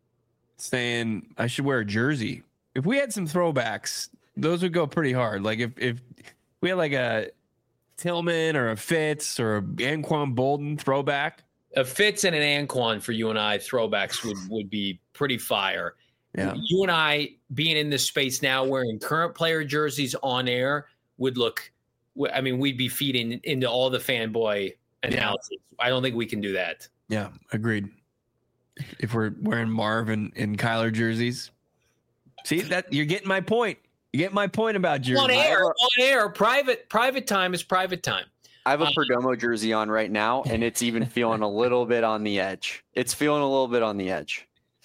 A: saying I should wear a jersey. If we had some throwbacks, those would go pretty hard. Like if we had like a Tillman or a Fitz or a Anquan Bolden throwback.
B: A Fitz and an Anquan for you and I throwbacks would be pretty fire.
A: Yeah.
B: You and I being in this space now wearing current player jerseys on air would look, I mean, we'd be feeding into all the fanboy analysis. I don't think we can do that.
A: Yeah, agreed. If we're wearing Marv and Kyler jerseys. See, that you're getting my point. You get my point about jerseys.
B: On air, private time is private time.
C: I have a Perdomo jersey on right now, and it's even feeling a little bit on the edge. It's feeling a little bit on the edge.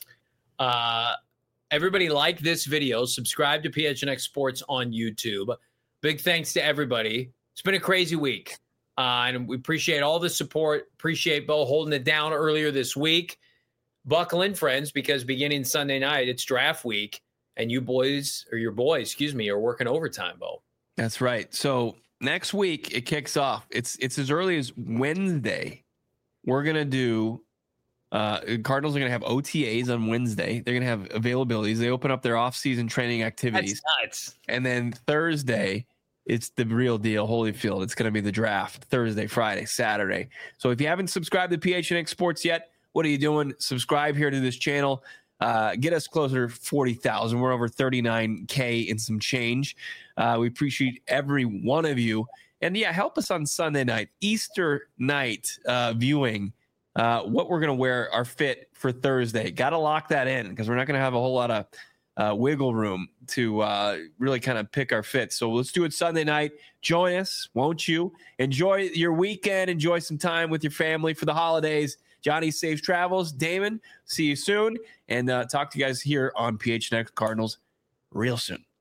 B: Everybody like this video. Subscribe to PHNX Sports on YouTube. Big thanks to everybody. It's been a crazy week. And we appreciate all the support. Appreciate Bo holding it down earlier this week. Buckle in, friends, because beginning Sunday night, it's draft week. And your boys, are working overtime, Bo.
A: That's right. So next week it kicks off. It's as early as Wednesday. We're gonna do. Cardinals are gonna have OTAs on Wednesday. They're gonna have availabilities. They open up their off-season training activities.
B: That's nuts.
A: And then Thursday, it's the real deal. Holyfield. It's gonna be the draft. Thursday, Friday, Saturday. So if you haven't subscribed to PHNX Sports yet, what are you doing? Subscribe here to this channel. Get us closer to 40,000. We're over 39K and some change. We appreciate every one of you. And yeah, help us on Sunday night, Easter night viewing, what we're going to wear, our fit for Thursday. Got to lock that in because we're not going to have a whole lot of wiggle room to really kind of pick our fit. So let's do it Sunday night. Join us, won't you? Enjoy your weekend. Enjoy some time with your family for the holidays. Johnny, safe travels. Damon, see you soon. And talk to you guys here on PHNX Cardinals real soon.